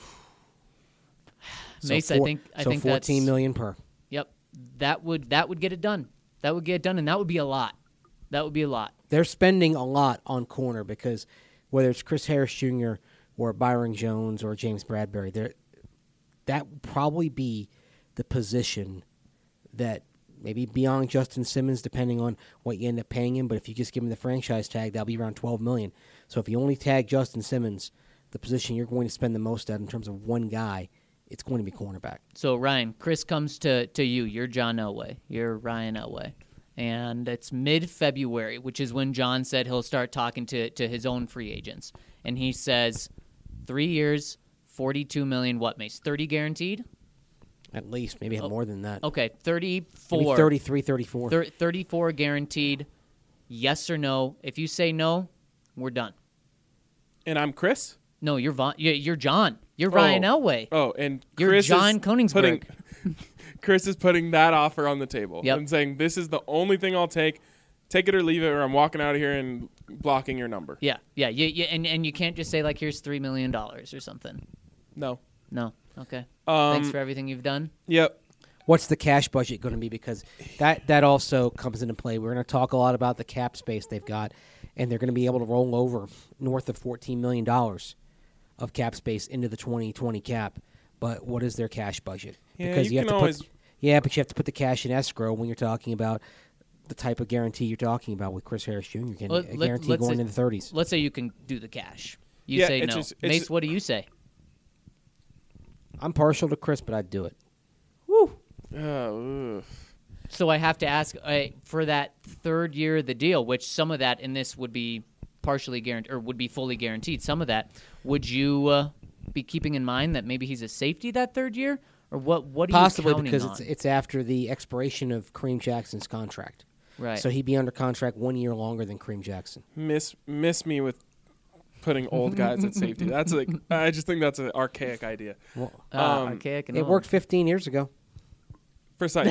S4: So
S3: Mace,
S4: four,
S3: I think I
S4: so
S3: think
S4: fourteen
S3: that's,
S4: million per.
S3: Yep. That would that would get it done. That would get it done, and that would be a lot. That would be a lot.
S4: They're spending a lot on corner because whether it's Chris Harris Junior or Byron Jones or James Bradbury, they're that would probably be the position that maybe beyond Justin Simmons, depending on what you end up paying him. But if you just give him the franchise tag, that'll be around twelve million dollars. So if you only tag Justin Simmons, the position you're going to spend the most at in terms of one guy, it's going to be cornerback.
S3: So, Ryan, Chris comes to, to you. You're John Elway. You're Ryan Elway. And it's mid-February, which is when John said he'll start talking to, to his own free agents. And he says, three years, forty-two million dollars, what, Mace? thirty guaranteed?
S4: At least, maybe
S3: Oh,
S4: more than that.
S3: Okay, thirty-four.
S4: Maybe thirty-three, thirty-four.
S3: Thir- thirty-four guaranteed. Yes or no? If you say no, we're done.
S1: And I'm Chris?
S3: No, you're Von- you're you're John. You're Ryan
S1: Oh.
S3: Elway.
S1: Oh, and
S3: You're
S1: Chris
S3: John
S1: is
S3: Koenigsberg.
S1: putting, Chris is putting that offer on the table
S3: Yep.
S1: and saying, this is the only thing I'll take. Take it or leave it, or I'm walking out of here and blocking your number.
S3: Yeah, yeah, you, you, and and you can't just say like, here's three million dollars or something.
S1: No.
S3: No. Okay.
S1: Um,
S3: Thanks for everything you've done.
S1: Yep.
S4: What's the cash budget going to be? Because that, that also comes into play. We're going to talk a lot about the cap space they've got, and they're going to be able to roll over north of fourteen million dollars of cap space into the twenty twenty cap. But what is their cash budget?
S1: Yeah,
S4: because
S1: you
S4: have
S1: can
S4: to
S1: always-
S4: put yeah, but you have to put the cash in escrow when you're talking about the type of guarantee you're talking about with Chris Harris Junior Getting
S3: Let-
S4: a
S3: let-
S4: guarantee
S3: let's
S4: going
S3: say-
S4: in the thirties.
S3: Let's say you can do the cash. You
S1: Yeah,
S3: say
S1: it's
S3: no.
S1: just- it's
S3: Mace,
S1: just-
S3: what do you say?
S4: I'm partial to Chris, but I'd do it.
S1: Uh, ugh.
S3: So I have to ask uh, for that third year of the deal, which some of that in this would be partially guaranteed or would be fully guaranteed. Some of that, would you uh, be keeping in mind that maybe he's a safety that third year, or what? What are
S4: Possibly
S3: you counting
S4: because
S3: on?
S4: it's it's after the expiration of Kareem Jackson's contract.
S3: right.
S4: So he'd be under contract one year longer than Kareem Jackson.
S1: miss miss me with putting old guys at safety. That's like I just think that's an archaic idea.
S4: Well,
S3: uh,
S1: um,
S3: archaic and
S4: it
S3: old.
S4: worked fifteen years ago.
S1: Precisely.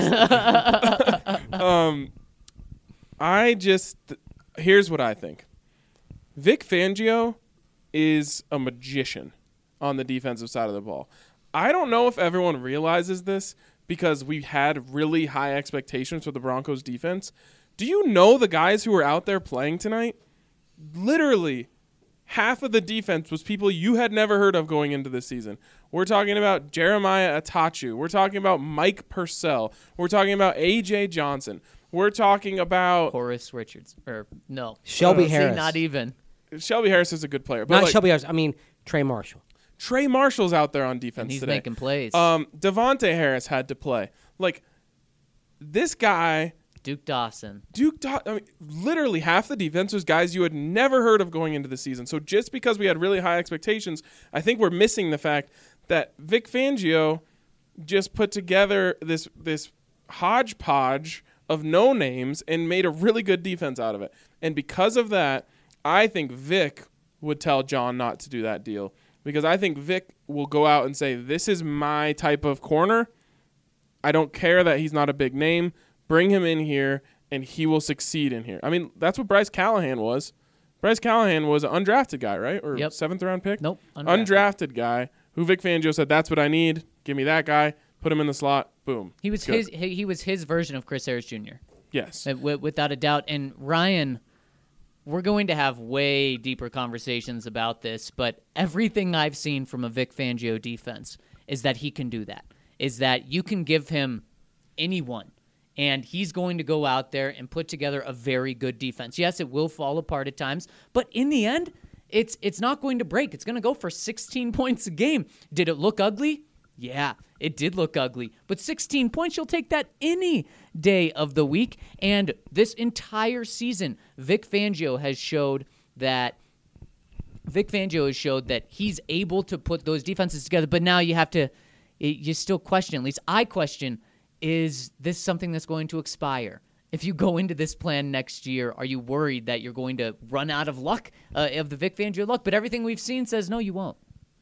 S1: um, I just here's what I think. Vic Fangio is a magician on the defensive side of the ball. I don't know if everyone realizes this because we had really high expectations for the Broncos defense. Do you know the guys who were out there playing tonight? Literally, half of the defense was people you had never heard of going into this season. We're talking about Jeremiah Atachu. We're talking about Mike Purcell. We're talking about A J Johnson. We're talking about
S3: Horace Richards, or no,
S4: Shelby
S3: See,
S4: Harris.
S3: not even.
S1: Shelby Harris is a good player, but
S4: Not
S1: like,
S4: Shelby Harris. I mean Trey Marshall.
S1: Trey Marshall's out there on defense
S3: And he's
S1: today.
S3: making plays.
S1: Um, Devontae Harris had to play. Like this guy,
S3: Duke Dawson.
S1: Duke. Do- I mean, literally half the defense was guys you had never heard of going into the season. So just because we had really high expectations, I think we're missing the fact that Vic Fangio just put together this this hodgepodge of no names and made a really good defense out of it. And because of that, I think Vic would tell John not to do that deal because I think Vic will go out and say, this is my type of corner. I don't care that he's not a big name. Bring him in here and he will succeed in here. I mean, that's what Bryce Callahan was. Bryce Callahan was an undrafted guy, right? Or
S3: Yep.
S1: seventh round pick?
S3: Nope.
S1: Undrafted.
S3: Undrafted.
S1: guy who Vic Fangio said, that's what I need. Give me that guy. Put him in the slot. Boom.
S3: He was
S1: Good.
S3: his. He, he was his version of Chris Harris Junior
S1: Yes.
S3: Uh, wi- without a doubt. And Ryan, we're going to have way deeper conversations about this, but everything I've seen from a Vic Fangio defense is that he can do that. Is that you can give him anyone, and he's going to go out there and put together a very good defense. Yes, it will fall apart at times, but in the end, it's it's not going to break. It's going to go for sixteen points a game. Did it look ugly? Yeah, it did look ugly. But sixteen points, you'll take that any day of the week. And this entire season, Vic Fangio has showed that Vic Fangio has showed that he's able to put those defenses together. But now you have to, you still question, at least I question, is this something that's going to expire? If you go into this plan next year, are you worried that you're going to run out of luck, uh, of the Vic Fangio luck? But everything we've seen says, no, you won't.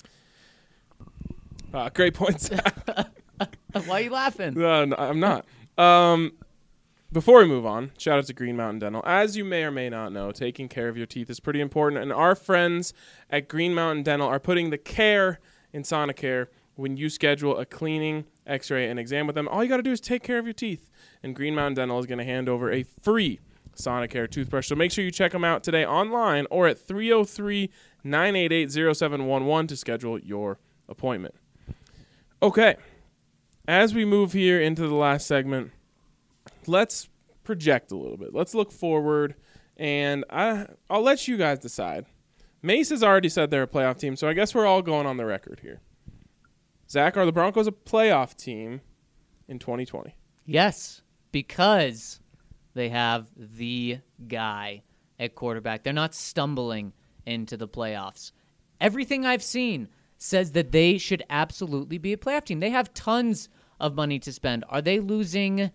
S1: Uh, great points.
S3: Why are you laughing?
S1: Uh, no, I'm not. Um, before we move on, shout out to Green Mountain Dental. As you may or may not know, taking care of your teeth is pretty important, and our friends at Green Mountain Dental are putting the care in Sonicare. When you schedule a cleaning, x-ray, and exam with them, all you got to do is take care of your teeth, and Green Mountain Dental is going to hand over a free Sonicare toothbrush. So make sure you check them out today online or at three oh three, nine eight eight, oh seven one one to schedule your appointment. Okay, as we move here into the last segment, let's project a little bit. Let's look forward, and I, I'll let you guys decide. Mace has already said they're a playoff team, so I guess we're all going on the record here. Zach, are the Broncos a playoff team in twenty twenty?
S3: Yes, because they have the guy at quarterback. They're not stumbling into the playoffs. Everything I've seen says that they should absolutely be a playoff team. They have tons of money to spend. Are they losing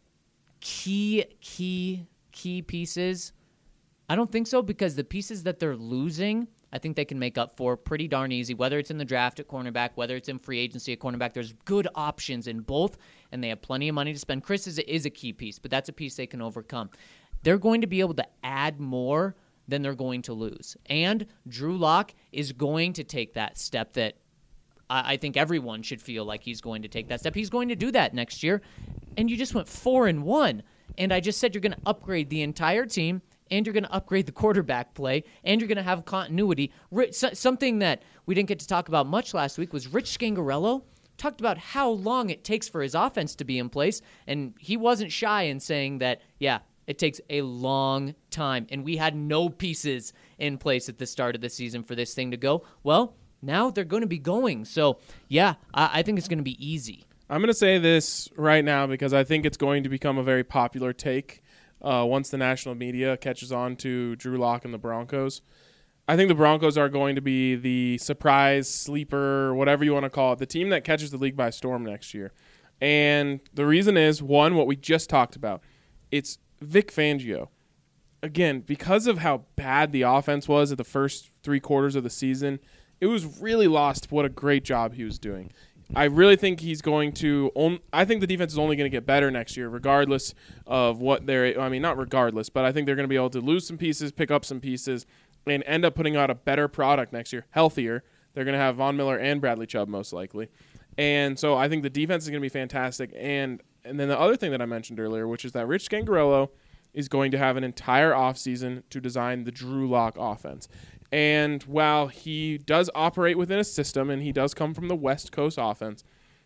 S3: key, key, key pieces? I don't think so, because the pieces that they're losing, I think they can make up for pretty darn easy, whether it's in the draft at cornerback, whether it's in free agency at cornerback. There's good options in both, and they have plenty of money to spend. Chris is, is a key piece, but that's a piece they can overcome. They're going to be able to add more than they're going to lose. And Drew Lock is going to take that step that I, I think everyone should feel like he's going to take that step. He's going to do that next year. And you just went four and one. And I just said you're going to upgrade the entire team, and you're going to upgrade the quarterback play, and you're going to have continuity. Something that we didn't get to talk about much last week was Rich Scangarello talked about how long it takes for his offense to be in place, and he wasn't shy in saying that, yeah, it takes a long time, and we had no pieces in place at the start of the season for this thing to go. Well, now they're going to be going. So, yeah, I, I think it's going to be easy.
S1: I'm going to say this right now because I think it's going to become a very popular take uh, once the national media catches on to Drew Lock and the Broncos. I think the Broncos are going to be the surprise, sleeper, whatever you want to call it, the team that catches the league by storm next year. And the reason is, one, what we just talked about. It's Vic Fangio. Again, because of how bad the offense was at the first three quarters of the season, it was really lost what a great job he was doing. I really think he's going to on, – I think the defense is only going to get better next year regardless of what they're – I mean, not regardless, but I think they're going to be able to lose some pieces, pick up some pieces, and end up putting out a better product next year, healthier. They're going to have Von Miller and Bradley Chubb most likely. And so I think the defense is going to be fantastic. And and then the other thing that I mentioned earlier, which is that Rich Scangarello is going to have an entire offseason to design the Drew Lock offense. And while he does operate within a system and he does come from the West Coast offense,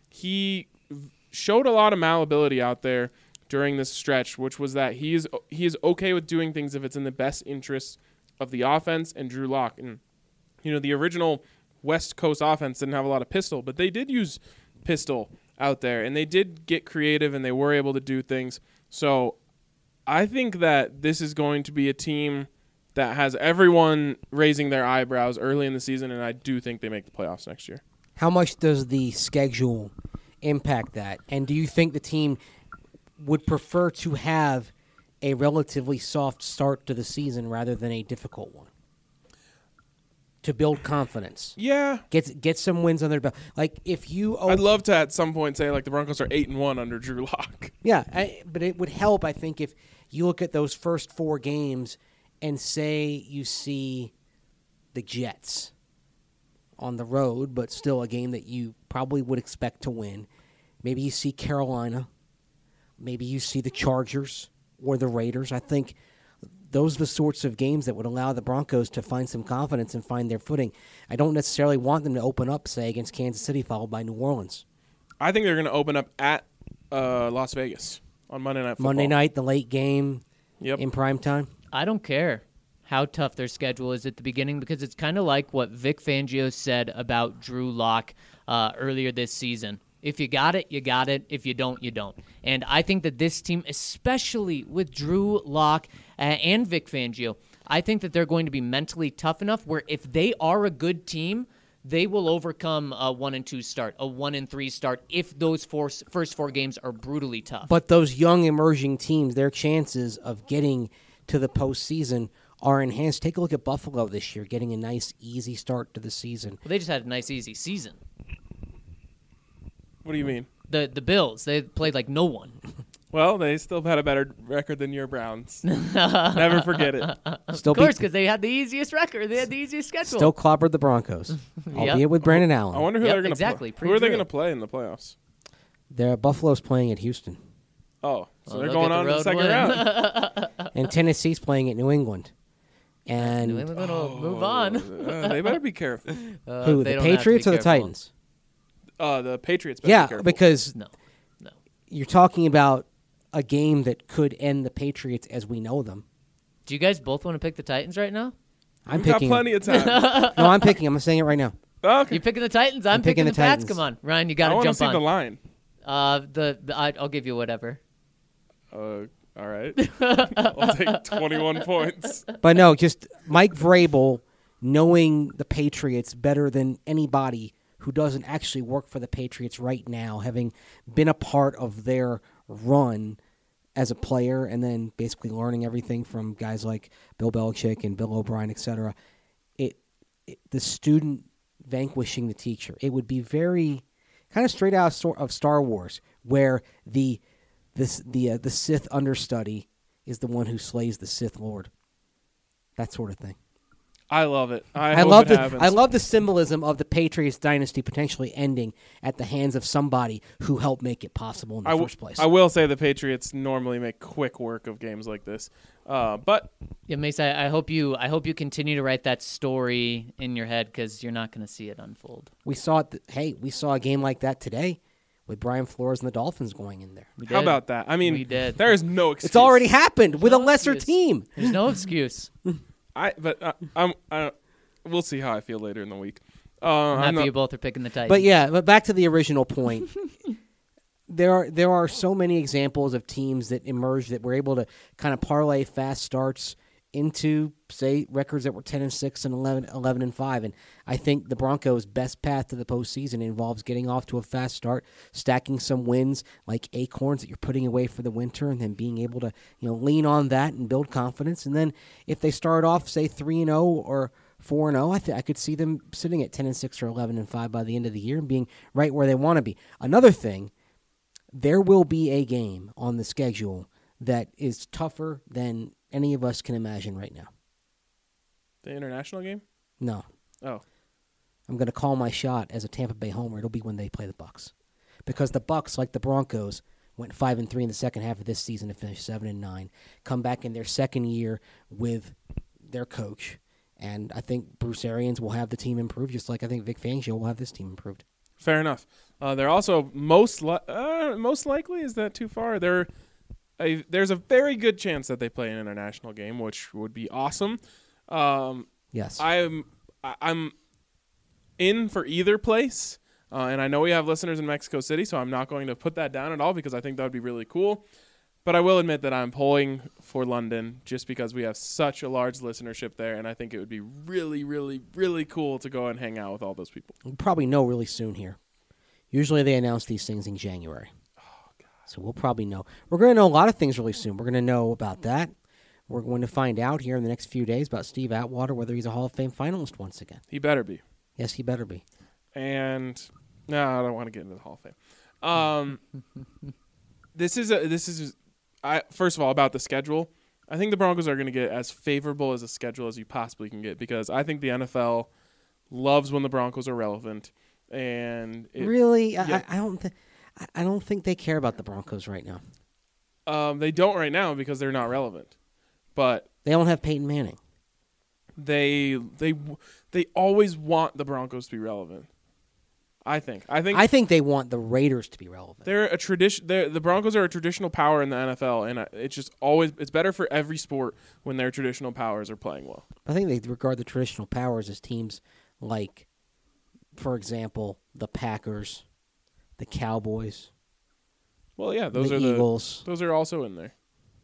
S1: he showed a lot of malleability out there during this stretch, which was that he is he is okay with doing things if it's in the best interests of the offense and Drew Lock. And, you know, the original West Coast offense didn't have a lot of pistol, but they did use pistol out there, and they did get creative, and they were able to do things. So I think that this is going to be a team that has everyone raising their eyebrows early in the season, and I do think they make the playoffs next year.
S4: How much does the schedule impact that? And do you think the team would prefer to have a relatively soft start to the season rather than a difficult one to build confidence?
S1: Yeah.
S4: Get get some wins on their belt. Like if you
S1: I'd love to at some point say like the Broncos are eight and one under Drew Lock.
S4: Yeah, I, but it would help, I think, if you look at those first four games and say you see the Jets on the road, but still a game that you probably would expect to win. Maybe you see Carolina. Maybe you see the Chargers or the Raiders. I think those are the sorts of games that would allow the Broncos to find some confidence and find their footing. I don't necessarily want them to open up, say, against Kansas City, followed by New Orleans.
S1: I think they're going to open up at uh, Las Vegas on Monday Night Football.
S4: Monday night, the late game
S1: Yep.
S4: in prime time.
S3: I don't care how tough their schedule is at the beginning because it's kind of like what Vic Fangio said about Drew Lock uh, earlier this season. If you got it, you got it. If you don't, you don't. And I think that this team, especially with Drew Lock uh, and Vic Fangio, I think that they're going to be mentally tough enough where if they are a good team, they will overcome a one and two start, a one and three start, if those four, first four games are brutally tough.
S4: But those young emerging teams, their chances of getting to the postseason are enhanced. Take a look at Buffalo this year, getting a nice, easy start to the season.
S3: Well, they just had a nice, easy season.
S1: What do you mean?
S3: The the Bills, they played like no one.
S1: Well, they still had a better record than your Browns. Never forget it.
S4: Still
S3: Of course,
S4: beat-
S3: because they had the easiest record. They had the easiest schedule.
S4: Still clobbered the Broncos, albeit with Brandon Allen.
S1: I wonder who
S3: Yep,
S1: they're going to
S3: exactly.
S1: play. Who are they
S3: Pre-Drew.
S1: going to play in the playoffs?
S4: Their Buffalo's playing at Houston,
S1: Oh, so
S3: Well,
S1: they're
S3: they'll
S1: going
S3: get the
S1: on to the
S3: road
S1: second
S3: win.
S1: round.
S4: and Tennessee's playing at New England.
S3: New
S4: And
S3: England will move on.
S1: Uh, they better be careful.
S3: Uh,
S4: who?
S3: they
S4: The
S3: don't have to be
S4: Patriots or the
S3: careful.
S4: Titans?
S1: Uh, the Patriots better be
S4: Yeah,
S1: careful.
S4: because
S3: No, no.
S4: you're talking about a game that could end the Patriots as we know them.
S3: Do you guys both want to pick the Titans right now?
S4: I'm
S1: We've got
S4: picking.
S1: plenty of time.
S4: No, I'm picking. I'm saying it right now.
S1: Okay.
S3: You picking the Titans? I'm,
S4: I'm picking
S3: picking,
S4: the
S3: the Pats.
S4: Titans.
S3: Come on, Ryan, you
S1: I
S3: got to
S1: want to
S3: jump
S1: see
S3: on.
S1: the line.
S3: Uh, the, the I, I'll give you whatever.
S1: Uh, all right. I'll take twenty-one points.
S4: But no, just Mike Vrabel knowing the Patriots better than anybody who doesn't actually work for the Patriots right now, having been a part of their run as a player and then basically learning everything from guys like Bill Belichick and Bill O'Brien, et cetera. It, it, the student vanquishing the teacher. It would be very kind of straight out of Star- of Star Wars, where the this the uh, the Sith understudy is the one who slays the Sith Lord. That sort of thing.
S1: I love it. I,
S4: I
S1: hope
S4: love
S1: it
S4: the
S1: happens.
S4: I love the symbolism of the Patriots dynasty potentially ending at the hands of somebody who helped make it possible in the
S1: I w-
S4: first place.
S1: I will say the Patriots normally make quick work of games like this, uh, but
S3: Yeah, Mace, I, I hope you I hope you continue to write that story in your head because you're not going to see it unfold.
S4: we saw it. Th- hey, we saw a game like that today with Brian Flores and the Dolphins going in there.
S3: We
S1: how
S3: did.
S1: about that? I mean,
S3: We did.
S1: there is no excuse.
S4: It's already happened with a
S3: No
S4: lesser
S3: excuse.
S4: team.
S3: There's no excuse.
S1: I but uh, I'm. I, we'll see how I feel later in the week. Uh,
S3: I'm
S1: I'm
S3: happy
S1: not-
S3: you both are picking the Titans.
S4: But yeah, but back to the original point. there are there are so many examples of teams that emerged that were able to kind of parlay fast starts into, say, records that were ten and six and eleven, eleven and five. And I think the Broncos' best path to the postseason involves getting off to a fast start, stacking some wins like acorns that you're putting away for the winter, and then being able to, you know, lean on that and build confidence. And then if they start off, say, three and oh or four and oh, I th- I could see them sitting at ten and six or eleven and five by the end of the year and being right where they want to be. Another thing, there will be a game on the schedule that is tougher than any of us can imagine right now.
S1: the international game.
S4: No.
S1: Oh,
S4: I'm going to call my shot as a Tampa Bay homer. It'll be when they play the Bucks, because the Bucks, like the Broncos, went five and three in the second half of this season to finish seven and nine. Come back in their second year with their coach, and I think Bruce Arians will have the team improved, just like I think Vic Fangio will have this team improved.
S1: fair enough. Uh, they're also most li- uh, most likely. Is that too far? They're a, there's a very good chance that they play an international game, which would be awesome. Um,
S4: Yes.
S1: I'm I- I'm in for either place, uh, and I know we have listeners in Mexico City, so I'm not going to put that down at all because I think that would be really cool. But I will admit that I'm pulling for London just because we have such a large listenership there, and I think it would be really, really, really cool to go and hang out with all those people.
S4: We'll probably know really soon here. Usually they announce these things in January. Oh, God. So we'll probably know. We're going to know a lot of things really soon. We're going to know about that. We're going to find out here in the next few days about Steve Atwater, whether he's a Hall of Fame finalist once again.
S1: He better be.
S4: Yes, he better be.
S1: And no, I don't want to get into the Hall of Fame. Um, this is a this is I first of all about the schedule. I think the Broncos are going to get as favorable as a schedule as you possibly can get because I think the N F L loves when the Broncos are relevant. And it,
S4: really,
S1: yeah.
S4: I, I don't. Th- I don't think they care about the Broncos right now.
S1: Um, they don't right now because they're not relevant, but
S4: They don't have Peyton Manning.
S1: they they they always want the Broncos to be relevant. I think. I think.
S4: I think they want the Raiders to be relevant.
S1: They're a tradition. They're, the Broncos are a traditional power in the N F L, and I- it's just always it's better for every sport when their traditional powers are playing well.
S4: I think they regard the traditional powers as teams like, for example, the Packers, the Cowboys,
S1: Well, yeah, those
S4: the
S1: are
S4: Eagles.
S1: the those are also in there.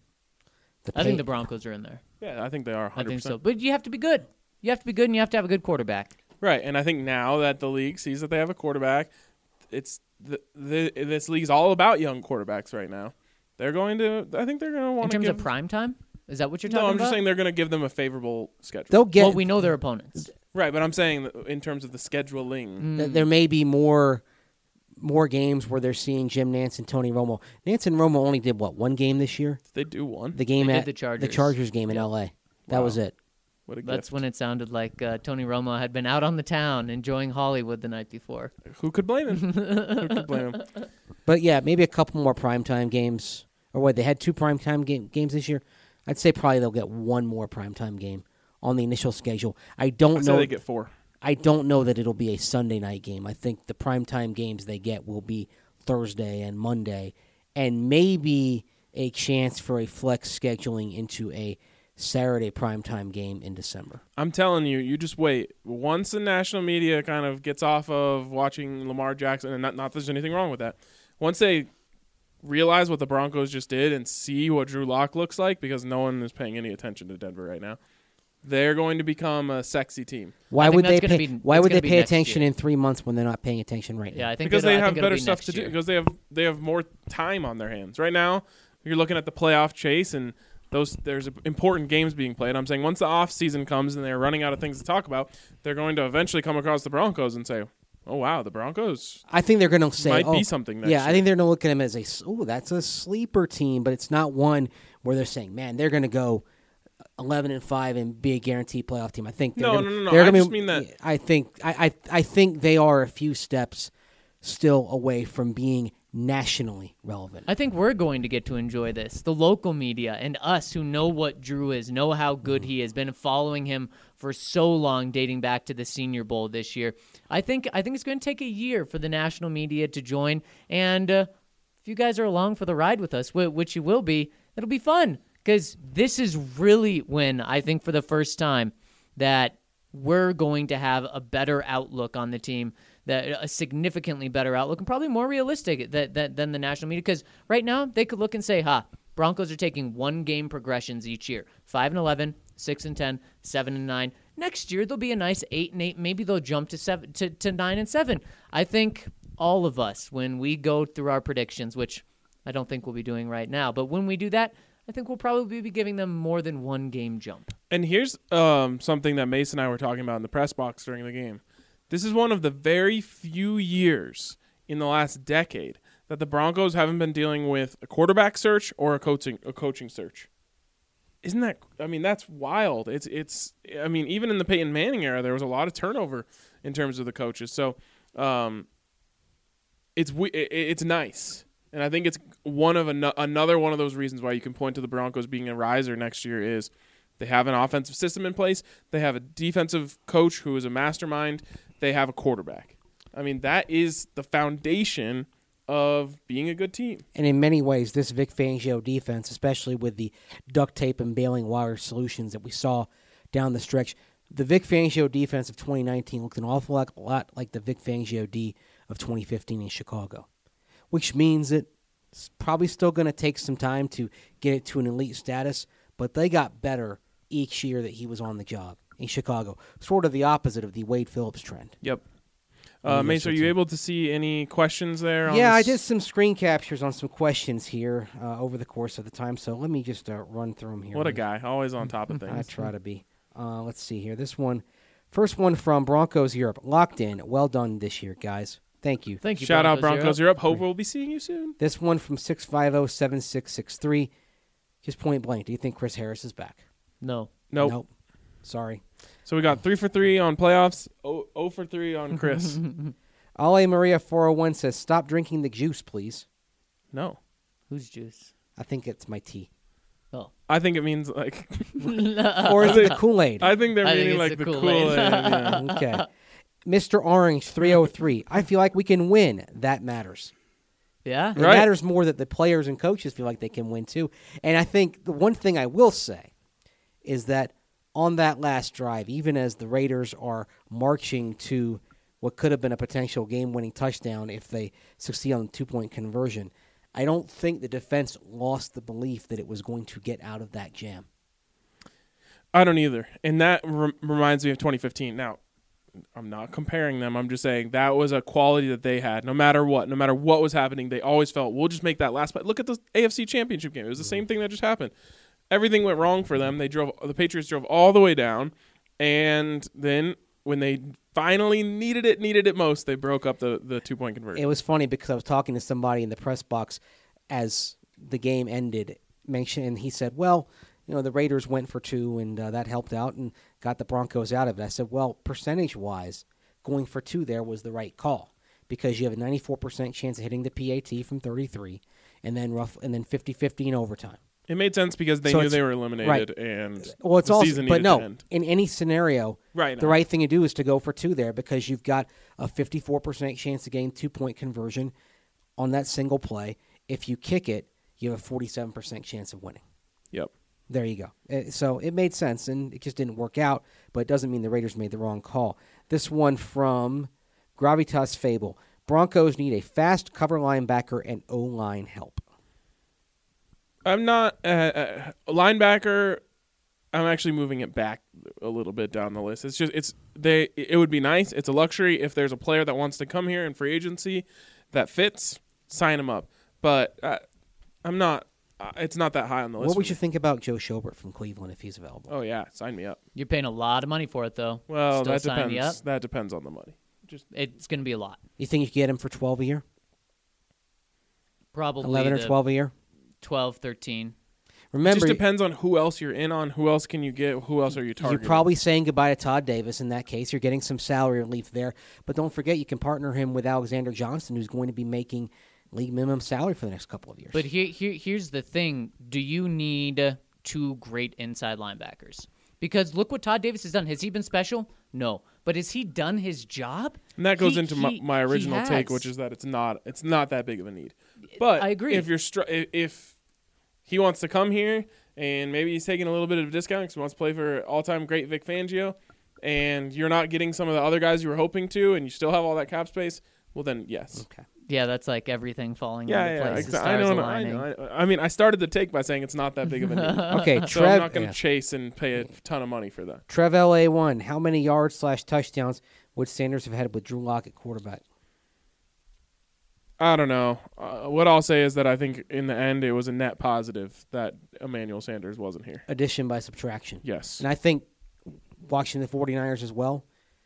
S4: The
S3: I think
S4: Pa-
S3: the Broncos are in there.
S1: Yeah, I think they are. one
S3: I
S1: hundred
S3: think
S1: percent.
S3: so. But you have to be good. You have to be good, and you have to have a good quarterback.
S1: Right, and I think now that the league sees that they have a quarterback, it's the, the this league's all about young quarterbacks right now. They're going to. I think they're going to
S3: In
S1: want to
S3: terms
S1: give.
S3: of prime time? Is that what you're talking
S1: no,
S3: about?
S1: I'm just saying they're going to give them a favorable schedule.
S4: They'll get.
S3: Well, we know their opponents.
S1: Right, but I'm saying that in terms of the scheduling.
S4: th- there may be more, more games where they're seeing Jim Nance and Tony Romo. Nance and Romo only did what one game this year?
S1: They do one.
S4: The game
S3: They did
S4: at
S3: the Chargers.
S4: Chargers game in L A. That
S1: Wow.
S4: was it.
S1: What a
S3: That's
S1: gift.
S3: when it sounded like uh, Tony Romo had been out on the town enjoying Hollywood the night before.
S1: Who could blame him? Who could blame him?
S4: But yeah, maybe a couple more primetime games. Or what, they had two primetime game, games this year? I'd say probably they'll get one more primetime game on the initial schedule. I don't
S1: I say
S4: know.
S1: they get four.
S4: I don't know that it'll be a Sunday night game. I think the primetime games they get will be Thursday and Monday, and maybe a chance for a flex scheduling into a Saturday primetime game in December.
S1: I'm telling you, you just wait. Once the national media kind of gets off of watching Lamar Jackson, and not, not that there's anything wrong with that, once they realize what the Broncos just did and see what Drew Lock looks like, because no one is paying any attention to Denver right now, they're going to become a sexy team.
S4: Why
S3: I think
S4: would they
S3: that's gonna
S4: pay?
S3: be-
S4: why
S3: that's
S4: would
S3: gonna
S4: they
S3: be
S4: pay
S3: next
S4: attention
S3: year.
S4: in three months when they're not paying attention right
S3: Yeah,
S4: now?
S3: I think
S1: Because
S3: it'll-
S1: they
S3: I
S1: have
S3: think it'll
S1: better
S3: be
S1: stuff
S3: next
S1: to do.
S3: year.
S1: Because they have they have more time on their hands right now. You're looking at the playoff chase, and those there's important games being played. I'm saying once the off season comes and they're running out of things to talk about, they're going to eventually come across the Broncos and say, "Oh wow, the Broncos
S4: I think they're going to say,
S1: might
S4: oh,
S1: be something next
S4: yeah,
S1: year."
S4: I think they're going to look at them as a, oh, that's a sleeper team, but it's not one where they're saying, man, they're going to go eleven and five and be a guaranteed playoff team. I think they're
S1: No,
S4: gonna,
S1: no, no, no.
S4: they're
S1: I
S4: gonna
S1: just
S4: be,
S1: mean that-
S4: I think I, I I think they are a few steps still away from being nationally relevant.
S3: I think we're going to get to enjoy this. The local media and us who know what Drew is, know how good he has been following him for so long, dating back to the Senior Bowl this year. I think I think it's going to take a year for the national media to join. And uh, if you guys are along for the ride with us, wh- which you will be, it'll be fun. Because this is really when, I think for the first time, that we're going to have a better outlook on the team, that a significantly better outlook, and probably more realistic that, that, than the national media. Because right now, they could look and say, ha, Broncos are taking one-game progressions each year. five and eleven, six and ten, seven and nine. Next year, they'll be a nice eight and eight. Maybe they'll jump to seven to, to nine and seven. I think all of us, when we go through our predictions, which I don't think we'll be doing right now, but when we do that, I think we'll probably be giving them more than one game jump.
S1: And here's um, something that Mason and I were talking about in the press box during the game. This is one of the very few years in the last decade that the Broncos haven't been dealing with a quarterback search or a coaching a coaching search. Isn't that? I mean, that's wild. It's it's. I mean, even in the Peyton Manning era, there was a lot of turnover in terms of the coaches. So, um, it's we- it, it's nice, and I think it's one of an, another one of those reasons why you can point to the Broncos being a riser next year is they have an offensive system in place. They have a defensive coach who is a mastermind. They have a quarterback. I mean, that is the foundation of being a good team.
S4: And in many ways, this Vic Fangio defense, especially with the duct tape and bailing wire solutions that we saw down the stretch, the Vic Fangio defense of twenty nineteen looked an awful lot, lot like the Vic Fangio D of twenty fifteen in Chicago, which means that it's probably still going to take some time to get it to an elite status, but they got better each year that he was on the job in Chicago, sort of the opposite of the Wade Phillips trend.
S1: Yep.
S4: Yeah,
S1: Uh, Mace, are you
S4: so-
S1: able to see any questions there? on
S4: Yeah, I
S1: this?
S4: did some screen captures on some questions here uh, over the course of the time, so let me just uh, run through them here.
S1: What a guy. Always on top of
S4: I
S1: things.
S4: try to be. Uh, let's see here. This one, first one from Broncos Europe. Locked in. Well done this year, guys. Thank you.
S3: Thank you,
S1: Shout out
S3: Broncos
S1: Broncos Europe. Hope we'll be seeing you soon.
S4: This one from six five zero seven six six three. Just point blank. Do you think Chris Harris is back?
S3: No.
S1: Nope.
S4: Sorry.
S1: So we got three for three on playoffs. Oh, oh for three on Chris.
S4: Ale Maria four oh one says, stop drinking the juice, please.
S1: No.
S3: Who's juice?
S4: I think it's my tea.
S3: Oh.
S1: I think it means like.
S4: Or is it the Kool-Aid?
S1: I think they're
S3: I think
S1: meaning
S3: it's
S1: like
S3: the
S1: the
S3: Kool-Aid.
S1: Kool-Aid. yeah.
S4: Okay. Mister Orange three oh three. I feel like we can win. That matters.
S3: Yeah?
S4: It
S1: Right.
S4: matters more that the players and coaches feel like they can win too. And I think the one thing I will say is that on that last drive, even as the Raiders are marching to what could have been a potential game-winning touchdown if they succeed on the two-point conversion, I don't think the defense lost the belief that it was going to get out of that jam.
S1: I don't either. And that re- reminds me of twenty fifteen. Now, I'm not comparing them. I'm just saying that was a quality that they had. No matter what, no matter what was happening, they always felt, we'll just make that last play. Look at the A F C Championship game. It was the same thing that just happened. Everything went wrong for them. They drove. The Patriots drove all the way down, and then when they finally needed it, needed it most, they broke up the, the two-point conversion.
S4: It was funny because I was talking to somebody in the press box as the game ended, mention, and he said, well, you know, the Raiders went for two, and uh, that helped out and got the Broncos out of it. I said, well, percentage-wise, going for two there was the right call because you have a ninety-four percent chance of hitting the P A T from thirty-three, and then rough, and then fifty-fifty in overtime.
S1: It made sense because they
S4: So
S1: knew
S4: it's-
S1: they were eliminated,
S4: right.
S1: and
S4: Well, it's
S1: the
S4: also,
S1: season
S4: but
S1: needed
S4: no,
S1: to end.
S4: in any scenario,
S1: Right,
S4: the
S1: no.
S4: right thing to do is to go for two there because you've got a fifty-four percent chance to gain two-point conversion on that single play. If you kick it, you have a forty-seven percent chance of winning.
S1: Yep.
S4: There you go. Uh, So it made sense, and it just didn't work out, but it doesn't mean the Raiders made the wrong call. This one from Gravitas Fable. Broncos need a fast cover linebacker and O-line help.
S1: I'm not uh, uh, linebacker. I'm actually moving it back a little bit down the list. It's just it's they. It would be nice. It's a luxury if there's a player that wants to come here in free agency that fits. Sign him up. But uh, I'm not. Uh, it's not that high on the list.
S4: What
S1: for
S4: would
S1: me.
S4: you think about Joe Schobert from Cleveland if he's available?
S1: Oh yeah, sign me up.
S3: You're paying a lot of money for it, though.
S1: Well,
S3: Still
S1: that
S3: sign me
S1: depends.
S3: up?
S1: That depends on the money. Just
S3: It's going to be a lot.
S4: You think you could get him for twelve a year?
S3: Probably
S4: eleven or
S3: the
S4: twelve a year?
S3: twelve, thirteen.
S1: it
S4: Remember,
S1: just depends on who else you're in on. Who else can you get? Who else are you targeting?
S4: you're probably saying goodbye to Todd Davis in that case. You're getting some salary relief there. But don't forget, you can partner him with Alexander Johnson, who's going to be making league minimum salary for the next couple of years.
S3: But here, here, here's the thing. Do you need two great inside linebackers? Because look what Todd Davis has done. Has he been special? No. But has he done his job?
S1: And that goes
S3: He-
S1: into my,
S3: he-
S1: my
S3: he
S1: original take,
S3: has.
S1: which is that it's not it's not that big of a need. But
S3: I agree.
S1: If you're str- if- if he wants to come here and maybe he's taking a little bit of a discount because he wants to play for all-time great Vic Fangio, and you're not getting some of the other guys you were hoping to, and you still have all that cap space, well then yes.
S4: okay.
S3: Yeah, that's like everything falling
S1: Yeah,
S3: into
S1: yeah,
S3: place. the
S1: exa- I
S3: stars
S1: know, I
S3: aligning.
S1: know. I, I mean, I started the take by saying it's not that big of a need.
S4: Okay,
S1: So
S4: Trev.
S1: I'm not going to
S4: yeah.
S1: chase and pay a ton of money for that.
S4: Trev L A one. How many yards slash touchdowns would Sanders have had with Drew Lock at quarterback?
S1: I don't know. Uh, what I'll say is that I think in the end it was a net positive that Emmanuel Sanders wasn't here.
S4: Addition by subtraction.
S1: Yes.
S4: And I think watching the 49ers as well,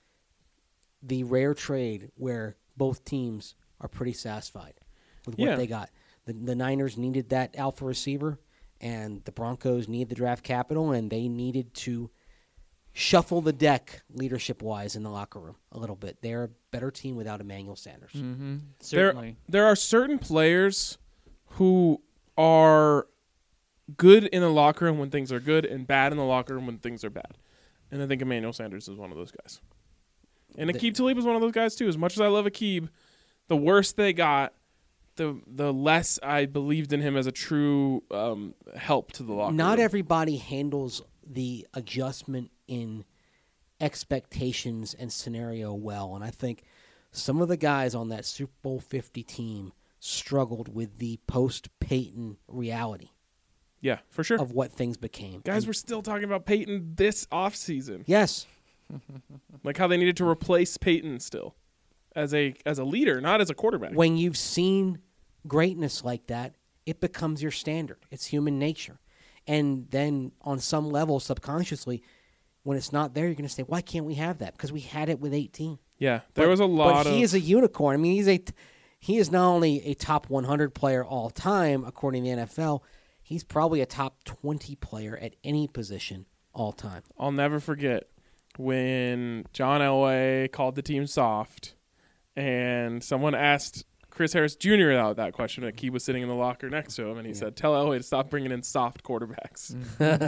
S4: the rare trade where both teams are pretty satisfied with what
S1: Yeah.
S4: they got. The, the Niners needed that alpha receiver, and the Broncos needed the draft capital, and they needed to shuffle the deck leadership-wise in the locker room a little bit. They're a better team without Emmanuel Sanders.
S3: Mm-hmm.
S1: There,
S3: Certainly.
S1: there are certain players who are good in the locker room when things are good and bad in the locker room when things are bad. And I think Emmanuel Sanders is one of those guys. And
S4: The-
S1: Aqib Talib is one of those guys too. As much as I love Aqib, the worse they got, the the less I believed in him as a true um, help to the locker room.
S4: Not everybody handles the adjustment in expectations and scenario well, and I think some of the guys on that Super Bowl fifty team struggled with the post-Peyton reality
S1: Yeah, for sure.
S4: of what things became.
S1: Guys,
S4: And
S1: we're still talking about Peyton this offseason.
S4: yes,
S1: Like how they needed to replace Peyton still as a as a leader, not as a quarterback.
S4: when you've seen greatness like that, it becomes your standard. It's human nature. And then on some level, subconsciously, when it's not there, you're going to say, why can't we have that? Because we had it with eighteen.
S1: yeah, there
S4: But-
S1: was a lot
S4: But he
S1: of
S4: is a unicorn. I mean, he's a he is not only a top one hundred player all time according to the N F L. he's probably a top twenty player at any position all time.
S1: I'll never forget when John Elway called the team soft, and someone asked Chris Harris Junior out that question. Like he was sitting in the locker next to him, and he yeah. said, "Tell Elway to stop bringing in soft quarterbacks."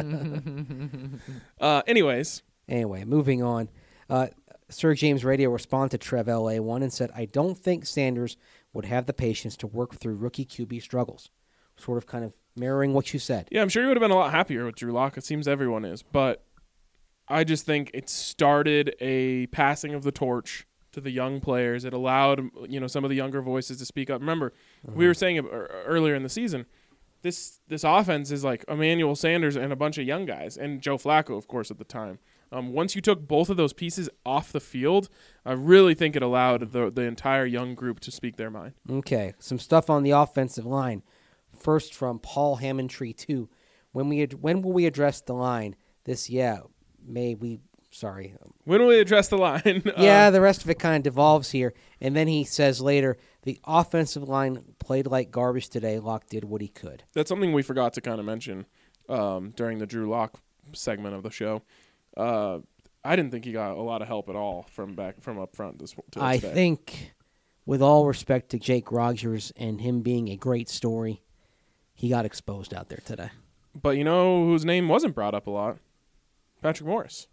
S1: uh, anyways,
S4: anyway, moving on. Uh, Sir James Radio responded to Trev L A one and said, "I don't think Sanders would have the patience to work through rookie Q B struggles." Sort of, kind of mirroring what you said.
S1: Yeah, I'm sure he would have been a lot happier with Drew Lock. It seems everyone is, but I just think it started a passing of the torch to the young players. It allowed, you know, some of the younger voices to speak up. Remember, mm-hmm. we were saying earlier in the season, this this offense is like Emmanuel Sanders and a bunch of young guys, and Joe Flacco, of course, at the time. Um, once you took both of those pieces off the field, I really think it allowed the the entire young group to speak their mind.
S4: Okay, some stuff on the offensive line. First from Paul Hammondtree two. When we ad- when will we address the line? This yeah, may we sorry.
S1: When will we address the line?
S4: yeah, um, the rest of it kind of devolves here. And then he says later, the offensive line played like garbage today. Locke did what he could.
S1: That's something we forgot to kind of mention um, during the Drew Lock segment of the show. Uh, I didn't think he got a lot of help at all from back from up front this to
S4: I
S1: today.
S4: think, with all respect to Jake Rogers and him being a great story, he got exposed out there today.
S1: But you know whose name wasn't brought up a lot? Patrick Morris.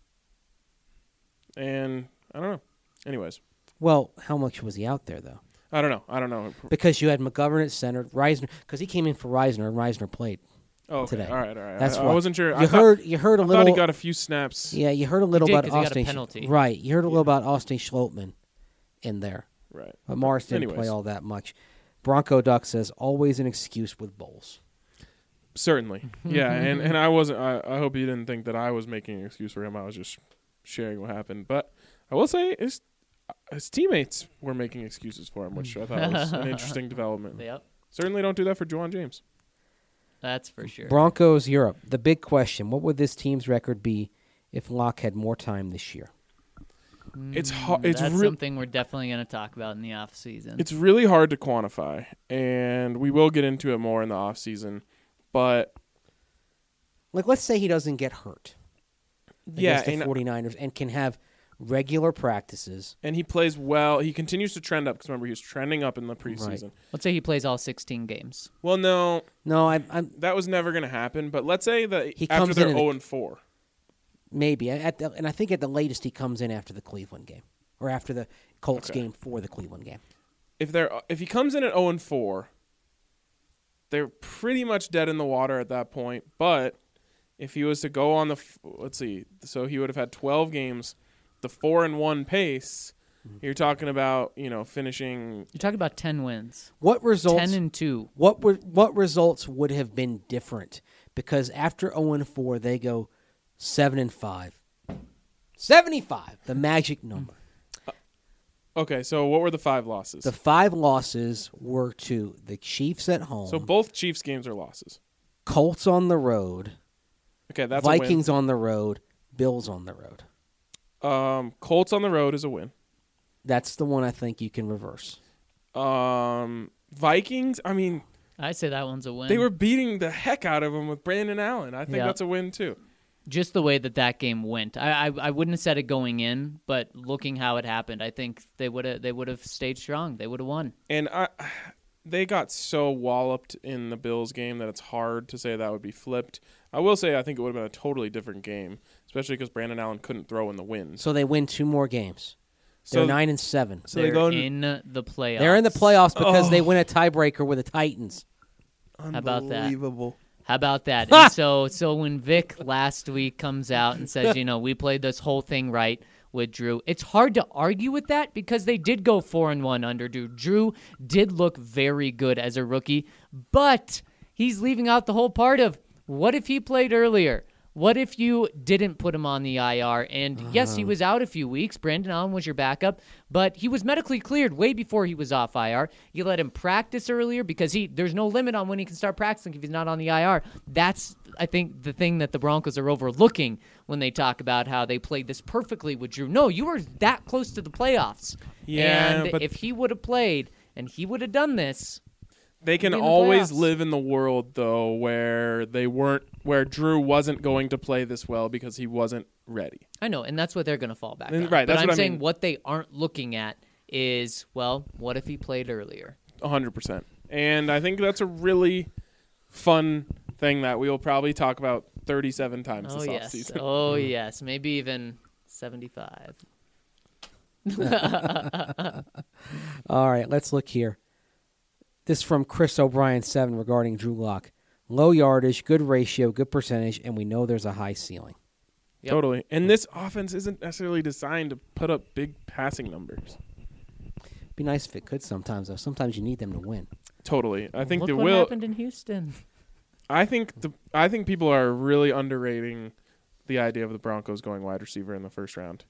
S1: And I don't know. Anyways.
S4: Well, how much was he out there, though?
S1: I don't know. I don't know.
S4: Because you had McGovern at center, Reisner, because he came in for Reisner, and Reisner played
S1: oh, okay.
S4: today.
S1: All right, all right.
S4: That's
S1: I,
S4: what,
S1: I wasn't sure.
S4: You
S1: I
S4: heard,
S1: thought,
S4: you heard a
S1: I
S4: little.
S1: thought he got a few snaps.
S4: Yeah, you heard a little
S3: he did,
S4: about
S3: he
S4: Austin.
S3: got a penalty.
S4: Right, you heard a
S1: yeah.
S4: little about Austin Schlottman in there.
S1: Right.
S4: But Morris didn't
S1: Anyways.
S4: play all that much. Bronco Duck says, always an excuse with Bowles.
S1: Certainly. Yeah, and, and I wasn't I, I hope you didn't think that I was making an excuse for him. I was just sharing what happened. But I will say his, his teammates were making excuses for him, which I thought was an interesting development.
S3: Yep.
S1: Certainly don't do that for Juwan James.
S3: That's for sure.
S4: Broncos Europe. The big question, what would this team's record be if Locke had more time this year?
S1: It's hard. It's
S3: That's
S1: re-
S3: something we're definitely going to talk about in the off season.
S1: It's really hard to quantify, and we will get into it more in the off season. But
S4: like, let's say he doesn't get hurt
S1: yeah,
S4: against the
S1: and,
S4: 49ers and can have regular practices.
S1: And he plays well. He continues to trend up because remember he was trending up in the preseason.
S4: Right.
S3: Let's say he plays all sixteen games.
S1: Well, no,
S4: no, I, I'm
S1: that was never going to happen. But let's say that
S4: he
S1: after
S4: comes
S1: they're
S4: in
S1: zero and four,
S4: maybe at the, and I think at the latest he comes in after the Cleveland game or after the Colts
S1: okay.
S4: game for the Cleveland game.
S1: If they're if he comes in at zero and four. They're pretty much dead in the water at that point. But if he was to go on the, let's see, so he would have had twelve games, the four and one pace. Mm-hmm. You're talking about, you know, finishing.
S3: You're talking about ten wins.
S4: What results?
S3: Ten and two.
S4: What would what results would have been different? Because after zero and four, they go seven and five. Seventy-five, the magic number.
S1: Okay, so what were the five losses?
S4: The five losses were to the Chiefs at home.
S1: So both Chiefs games are losses.
S4: Colts on the road.
S1: Okay, that's
S4: Vikings
S1: a win.
S4: on the road. Bills on the road.
S1: Um, Colts on the road is a win.
S4: That's the one I think you can reverse.
S1: Um, Vikings, I mean,
S3: I say that one's a win.
S1: they were beating the heck out of him with Brandon Allen. I think
S3: Yeah.
S1: that's a win too.
S3: Just the way that that game went. I, I I wouldn't have said it going in, but looking how it happened, I think they would have they would have stayed strong. They would have won.
S1: And I, they got so walloped in the Bills game that it's hard to say that would be flipped. I will say I think it would have been a totally different game, especially because Brandon Allen couldn't throw in the wins.
S4: So they win two more games. They're
S1: So-
S4: nine and seven.
S1: So
S3: They're
S1: they go
S3: in the playoffs.
S4: They're in the playoffs because
S1: Oh.
S4: they win a tiebreaker with the Titans.
S3: about that?
S1: Unbelievable.
S3: How about that? And so so when Vic last week comes out and says, you know, we played this whole thing right with Drew, it's hard to argue with that because they did go four and one under Drew. Drew did look very good as a rookie, but he's leaving out the whole part of what if he played earlier? What if you didn't put him on the I R? And yes, he was out a few weeks. Brandon Allen was your backup, but he was medically cleared way before he was off I R. You let him practice earlier because he there's no limit on when he can start practicing if he's not on the I R. That's, I think, the thing that the Broncos are overlooking when they talk about how they played this perfectly with Drew. No, you were that close to the playoffs.
S1: Yeah,
S3: and
S1: but
S3: if he would have played and he would have done this,
S1: They can
S3: Be in the
S1: always
S3: playoffs.
S1: live in the world though where they weren't where Drew wasn't going to play this well because he wasn't ready.
S3: I know, and that's what they're going to fall back
S1: And-
S3: on.
S1: right,
S3: But
S1: that's
S3: I'm
S1: what I
S3: saying
S1: mean.
S3: what they aren't looking at is, well, what if he played earlier?
S1: one hundred percent. And I think that's a really fun thing that we will probably talk about thirty-seven times
S3: Oh,
S1: this
S3: yes.
S1: offseason.
S3: Oh, yes. Maybe even seventy-five.
S4: All right, let's look here. This from Chris O'Brien seven regarding Drew Lock. Low yardage, good ratio, good percentage, and we know there's a high ceiling.
S3: Yep.
S1: Totally. And this offense isn't necessarily designed to put up big passing numbers.
S4: Be nice if it could sometimes, though. Sometimes you need them to win.
S1: Totally. I think
S3: Look
S1: the
S3: what
S1: will
S3: happened in Houston.
S1: I think the I think people are really underrating the idea of the Broncos going wide receiver in the first round.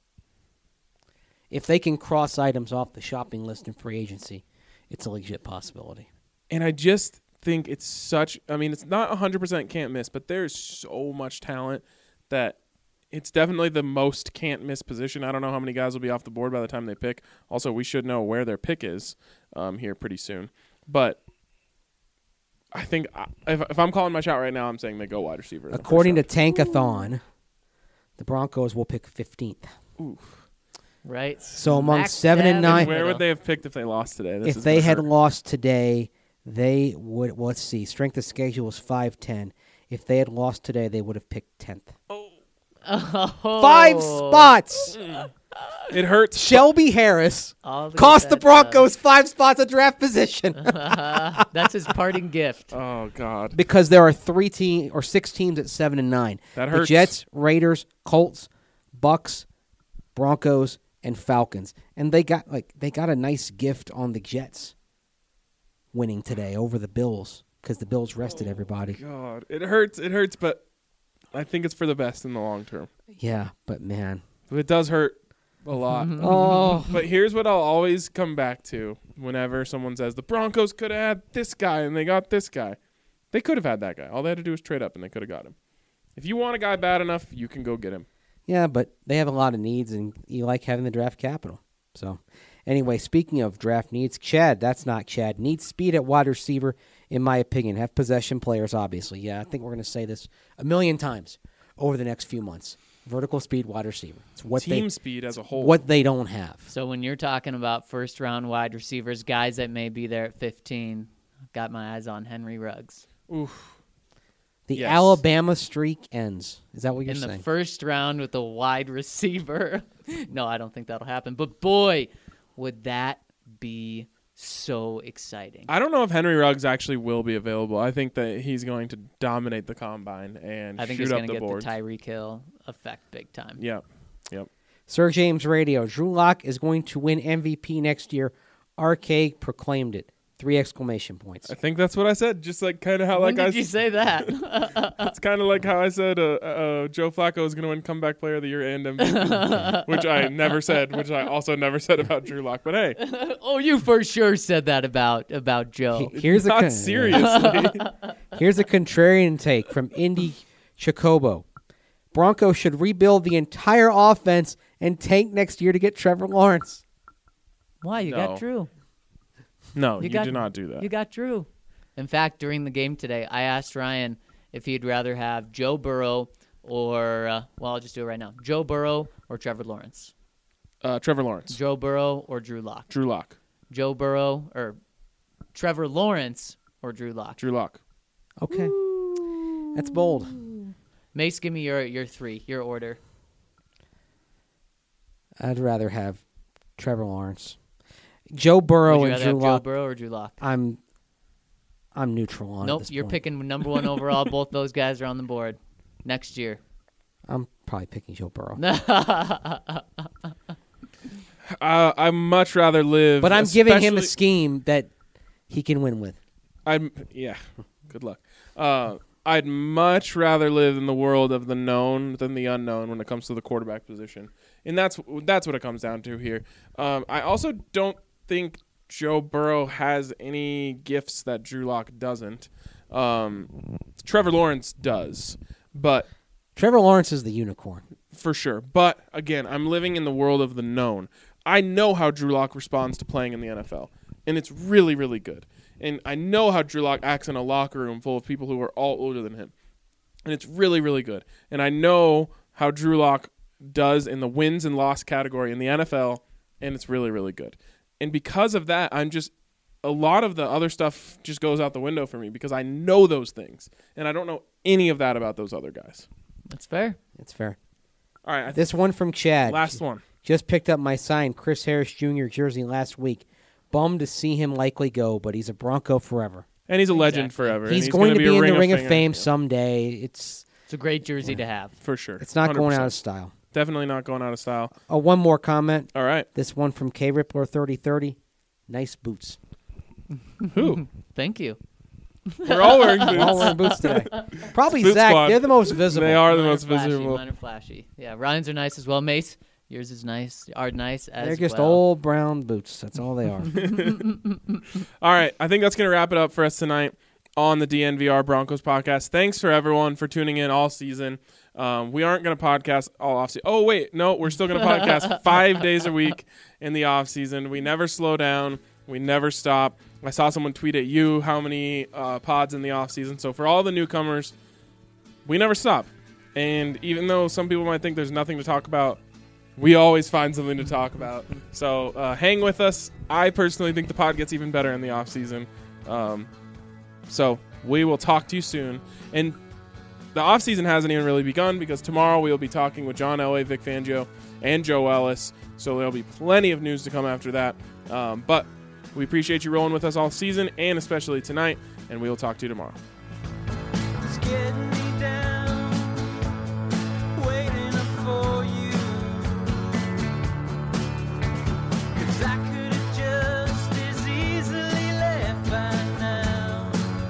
S4: If they can cross items off the shopping list in free agency, it's a legit possibility.
S1: And I just think it's such I mean, it's not one hundred percent can't miss, but there's so much talent that it's definitely the most can't miss position. I don't know how many guys will be off the board by the time they pick. Also, we should know where their pick is um, here pretty soon. But I think I- if, if I'm calling my shot right now, I'm saying they go wide receiver. in the first
S4: According to
S1: round.
S4: Tankathon, the Broncos will pick fifteenth.
S3: Right?
S4: So among
S3: Smack
S4: seven and
S3: dab in
S4: nine-
S3: the
S1: Where
S3: middle.
S1: would they have picked if they lost today? This
S4: If
S1: is
S4: they
S1: gonna
S4: had
S1: hurt.
S4: lost today, they would, well, let's see, strength of schedule was five ten. If they had lost today, they would have picked tenth.
S3: Oh.
S4: Five spots!
S1: It hurts.
S4: Shelby Harris
S3: All to
S4: cost
S3: get
S4: the
S3: that,
S4: Broncos five spots of draft position
S3: uh, that's his parting gift.
S1: Oh God,
S4: because there are three team or six teams at seven and nine.
S1: that
S4: The
S1: hurts.
S4: Jets, Raiders, Colts, Bucks, Broncos, and Falcons, and they got like they got a nice gift on the Jets winning today over the Bills because the Bills rested everybody.
S1: God, it hurts. It hurts, but I think it's for the best in the long term.
S4: Yeah, but man,
S1: It does hurt a lot.
S4: oh,
S1: But here's what I'll always come back to whenever someone says the Broncos could have had this guy and they got this guy. They could have had that guy. All they had to do was trade up and they could have got him. If you want a guy bad enough, you can go get him.
S4: yeah, but they have a lot of needs, and you like having the draft capital. So, anyway, speaking of draft needs, Chad, that's not Chad, needs speed at wide receiver, in my opinion. Have possession players, obviously. Yeah, I think we're going to say this a million times over the next few months. Vertical speed wide receiver. It's what
S1: Team
S4: they
S1: speed as a whole.
S4: what they don't have.
S3: So when you're talking about first round wide receivers, guys that may be there at fifteen, I've got my eyes on Henry Ruggs.
S1: Oof.
S4: The
S1: Yes.
S4: Alabama streak ends. Is that what you're
S3: In the
S4: saying?
S3: first round with a wide receiver. No, I don't think that'll happen. But boy, would that be so exciting.
S1: I don't know if Henry Ruggs actually will be available. I think that he's going to dominate the combine and
S3: I think
S1: shoot
S3: he's
S1: up
S3: going to
S1: the
S3: get
S1: boards.
S3: the Tyreek Hill effect big time.
S1: Yeah. Yep.
S4: Sir James Radio. Drew Lock is going to win M V P next year. R K proclaimed it. Three exclamation points.
S1: I think that's what I said. Just like kind of how
S3: When
S1: like I
S3: did you
S1: s-
S3: say that?
S1: It's kind of like how I said uh, uh, Joe Flacco is going to win comeback player of the year and M V P, which I never said, which I also never said about Drew Lock. But hey,
S3: Oh, you for sure said that about about Joe.
S4: Here's a
S1: not
S4: con-
S1: seriously.
S4: Here's a contrarian take from Indy Chicobo. Broncos should rebuild the entire offense and tank next year to get Trevor Lawrence.
S3: Why you
S1: No.
S3: got Drew?
S1: No,
S3: You
S1: you,
S3: got-
S1: do not do that.
S3: You got Drew. In fact, during the game today, I asked Ryan if he'd rather have Joe Burrow or, uh, well, I'll just do it right now. Joe Burrow or Trevor Lawrence?
S1: Uh, Trevor Lawrence,
S3: Joe Burrow or Drew Lock?
S1: Drew Lock,
S3: Joe Burrow or Trevor Lawrence or Drew Lock?
S1: Drew Lock.
S4: Okay. That's bold.
S3: Mace, give me your, your three, your order.
S4: I'd rather have Trevor Lawrence. Joe Burrow
S3: Would you
S4: and
S3: rather
S4: Drew
S3: have Joe
S4: Lock.
S3: Burrow or Drew Lock?
S4: I'm I'm neutral on
S3: Nope,
S4: this
S3: you're
S4: point.
S3: picking number one overall. Both those guys are on the board next year.
S4: I'm probably picking Joe Burrow.
S1: Uh, I'd much rather live.
S4: But I'm giving him a
S1: especially-
S4: scheme that he can win with.
S1: I'm yeah. Good luck. Uh, I'd much rather live in the world of the known than the unknown when it comes to the quarterback position, and that's that's what it comes down to here. Um, I also don't think Joe Burrow has any gifts that Drew Lock doesn't. Um, Trevor Lawrence does, but
S4: Trevor Lawrence is the unicorn.
S1: for sure. But again, I'm living in the world of the known. I know how Drew Lock responds to playing in the N F L, and it's really, really good. And I know how Drew Lock acts in a locker room full of people who are all older than him. And it's really, really good. And I know how Drew Lock does in the wins and loss category in the N F L, and it's really, really good. And because of that, I'm just a lot of the other stuff just goes out the window for me because I know those things, and I don't know any of that about those other guys.
S3: That's fair.
S4: It's fair.
S1: All right, I th-
S4: This one from Chad.
S1: last one.
S4: Just picked up my signed Chris Harris Junior jersey last week. Bummed to see him likely go, but he's a Bronco forever.
S1: And he's a legend
S3: Exactly.
S1: forever. and
S4: He's,
S1: he's
S4: going
S1: gonna
S4: to be, in
S1: a
S4: the Ring of
S1: Fame.
S4: Fame
S1: Yeah,
S4: someday. It's
S3: It's a great jersey to have.
S1: for sure.
S4: it's not
S1: one hundred
S4: going
S1: percent.
S4: out of style.
S1: Definitely not going out of style.
S4: Oh, one more comment.
S1: All right.
S4: This one from K Rippler thirty thirty. Nice boots.
S1: Who?
S3: Thank you.
S1: We're all wearing
S4: We're all
S1: boots.
S4: wearing boots today. Probably
S1: Boot
S4: Zach.
S1: squad.
S4: They're the most visible.
S1: They are the
S3: Mine
S1: most
S3: flashy,
S1: visible.
S3: Mine are flashy. Yeah, Ryan's are nice as well. Mace, yours is nice. Are nice as
S4: They're just
S3: well.
S4: old brown boots. That's all they are.
S1: All right. I think that's going to wrap it up for us tonight on the D N V R Broncos podcast. Thanks for everyone for tuning in all season. Um, we aren't going to podcast all off season. Oh, wait. No, we're still going to podcast five days a week in the off season. We never slow down. We never stop. I saw someone tweet at you how many uh, pods in the off season. So for all the newcomers, we never stop. And even though some people might think there's nothing to talk about, we always find something to talk about. So uh, hang with us. I personally think the pod gets even better in the off season. Um, so we will talk to you soon. And the off season hasn't even really begun because tomorrow we will be talking with John Elway, Vic Fangio, and Joe Ellis. So there'll be plenty of news to come after that. Um, but we appreciate you rolling with us all season and especially tonight. And we will talk to you tomorrow.
S2: It's getting me down, waiting up for you. 'Cause I could have just as easily left by now.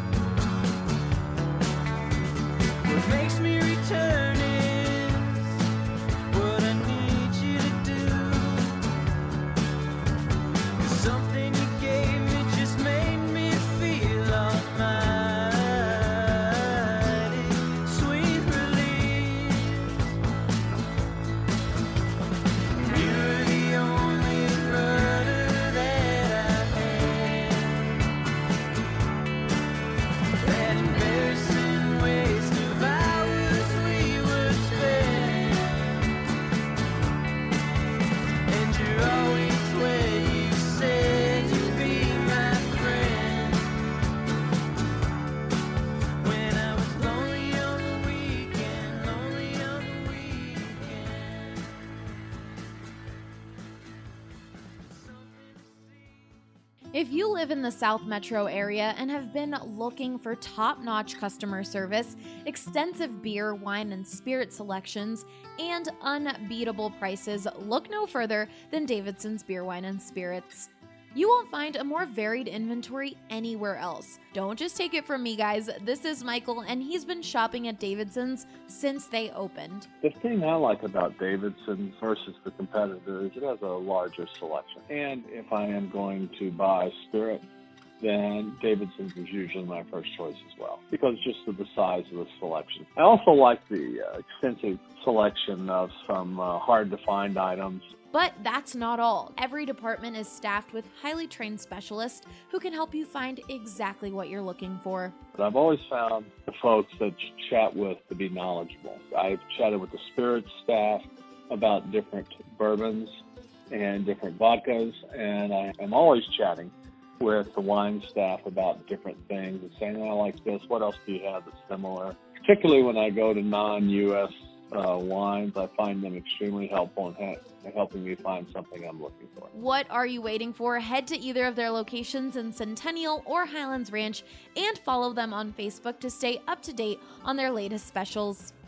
S2: What makes me return is what I need you to do. 'Cause something you gave me just made me feel almighty. Sweet release. You're the only rudder that I had. That embarrassing waste of hours we would spend. And you're always where you said you'd be my friend. When I was lonely on the weekend, lonely on the weekend.
S5: If you live in the South Metro area and have been looking for top-notch customer service, extensive beer, wine, and spirit selections, and unbeatable prices, look no further than Davidson's Beer, Wine, and Spirits. You won't find a more varied inventory anywhere else. Don't just take it from me, guys. This is Michael, and he's been shopping at Davidson's since they opened.
S6: The thing I like about Davidson versus the competitor is it has a larger selection. And if I am going to buy spirit, then Davidson's is usually my first choice as well, because just of the size of the selection. I also like the uh, extensive selection of some uh, hard-to-find items.
S5: But that's not all. Every department is staffed with highly trained specialists who can help you find exactly what you're looking for.
S6: But I've always found the folks that you chat with to be knowledgeable. I've chatted with the spirits staff about different bourbons and different vodkas, and I am always chatting with the wine staff about different things and saying, oh, I like this, what else do you have that's similar? Particularly when I go to non-U S uh, wines, I find them extremely helpful in ha- helping me find something I'm looking for.
S5: What are you waiting for? Head to either of their locations in Centennial or Highlands Ranch and follow them on Facebook to stay up to date on their latest specials.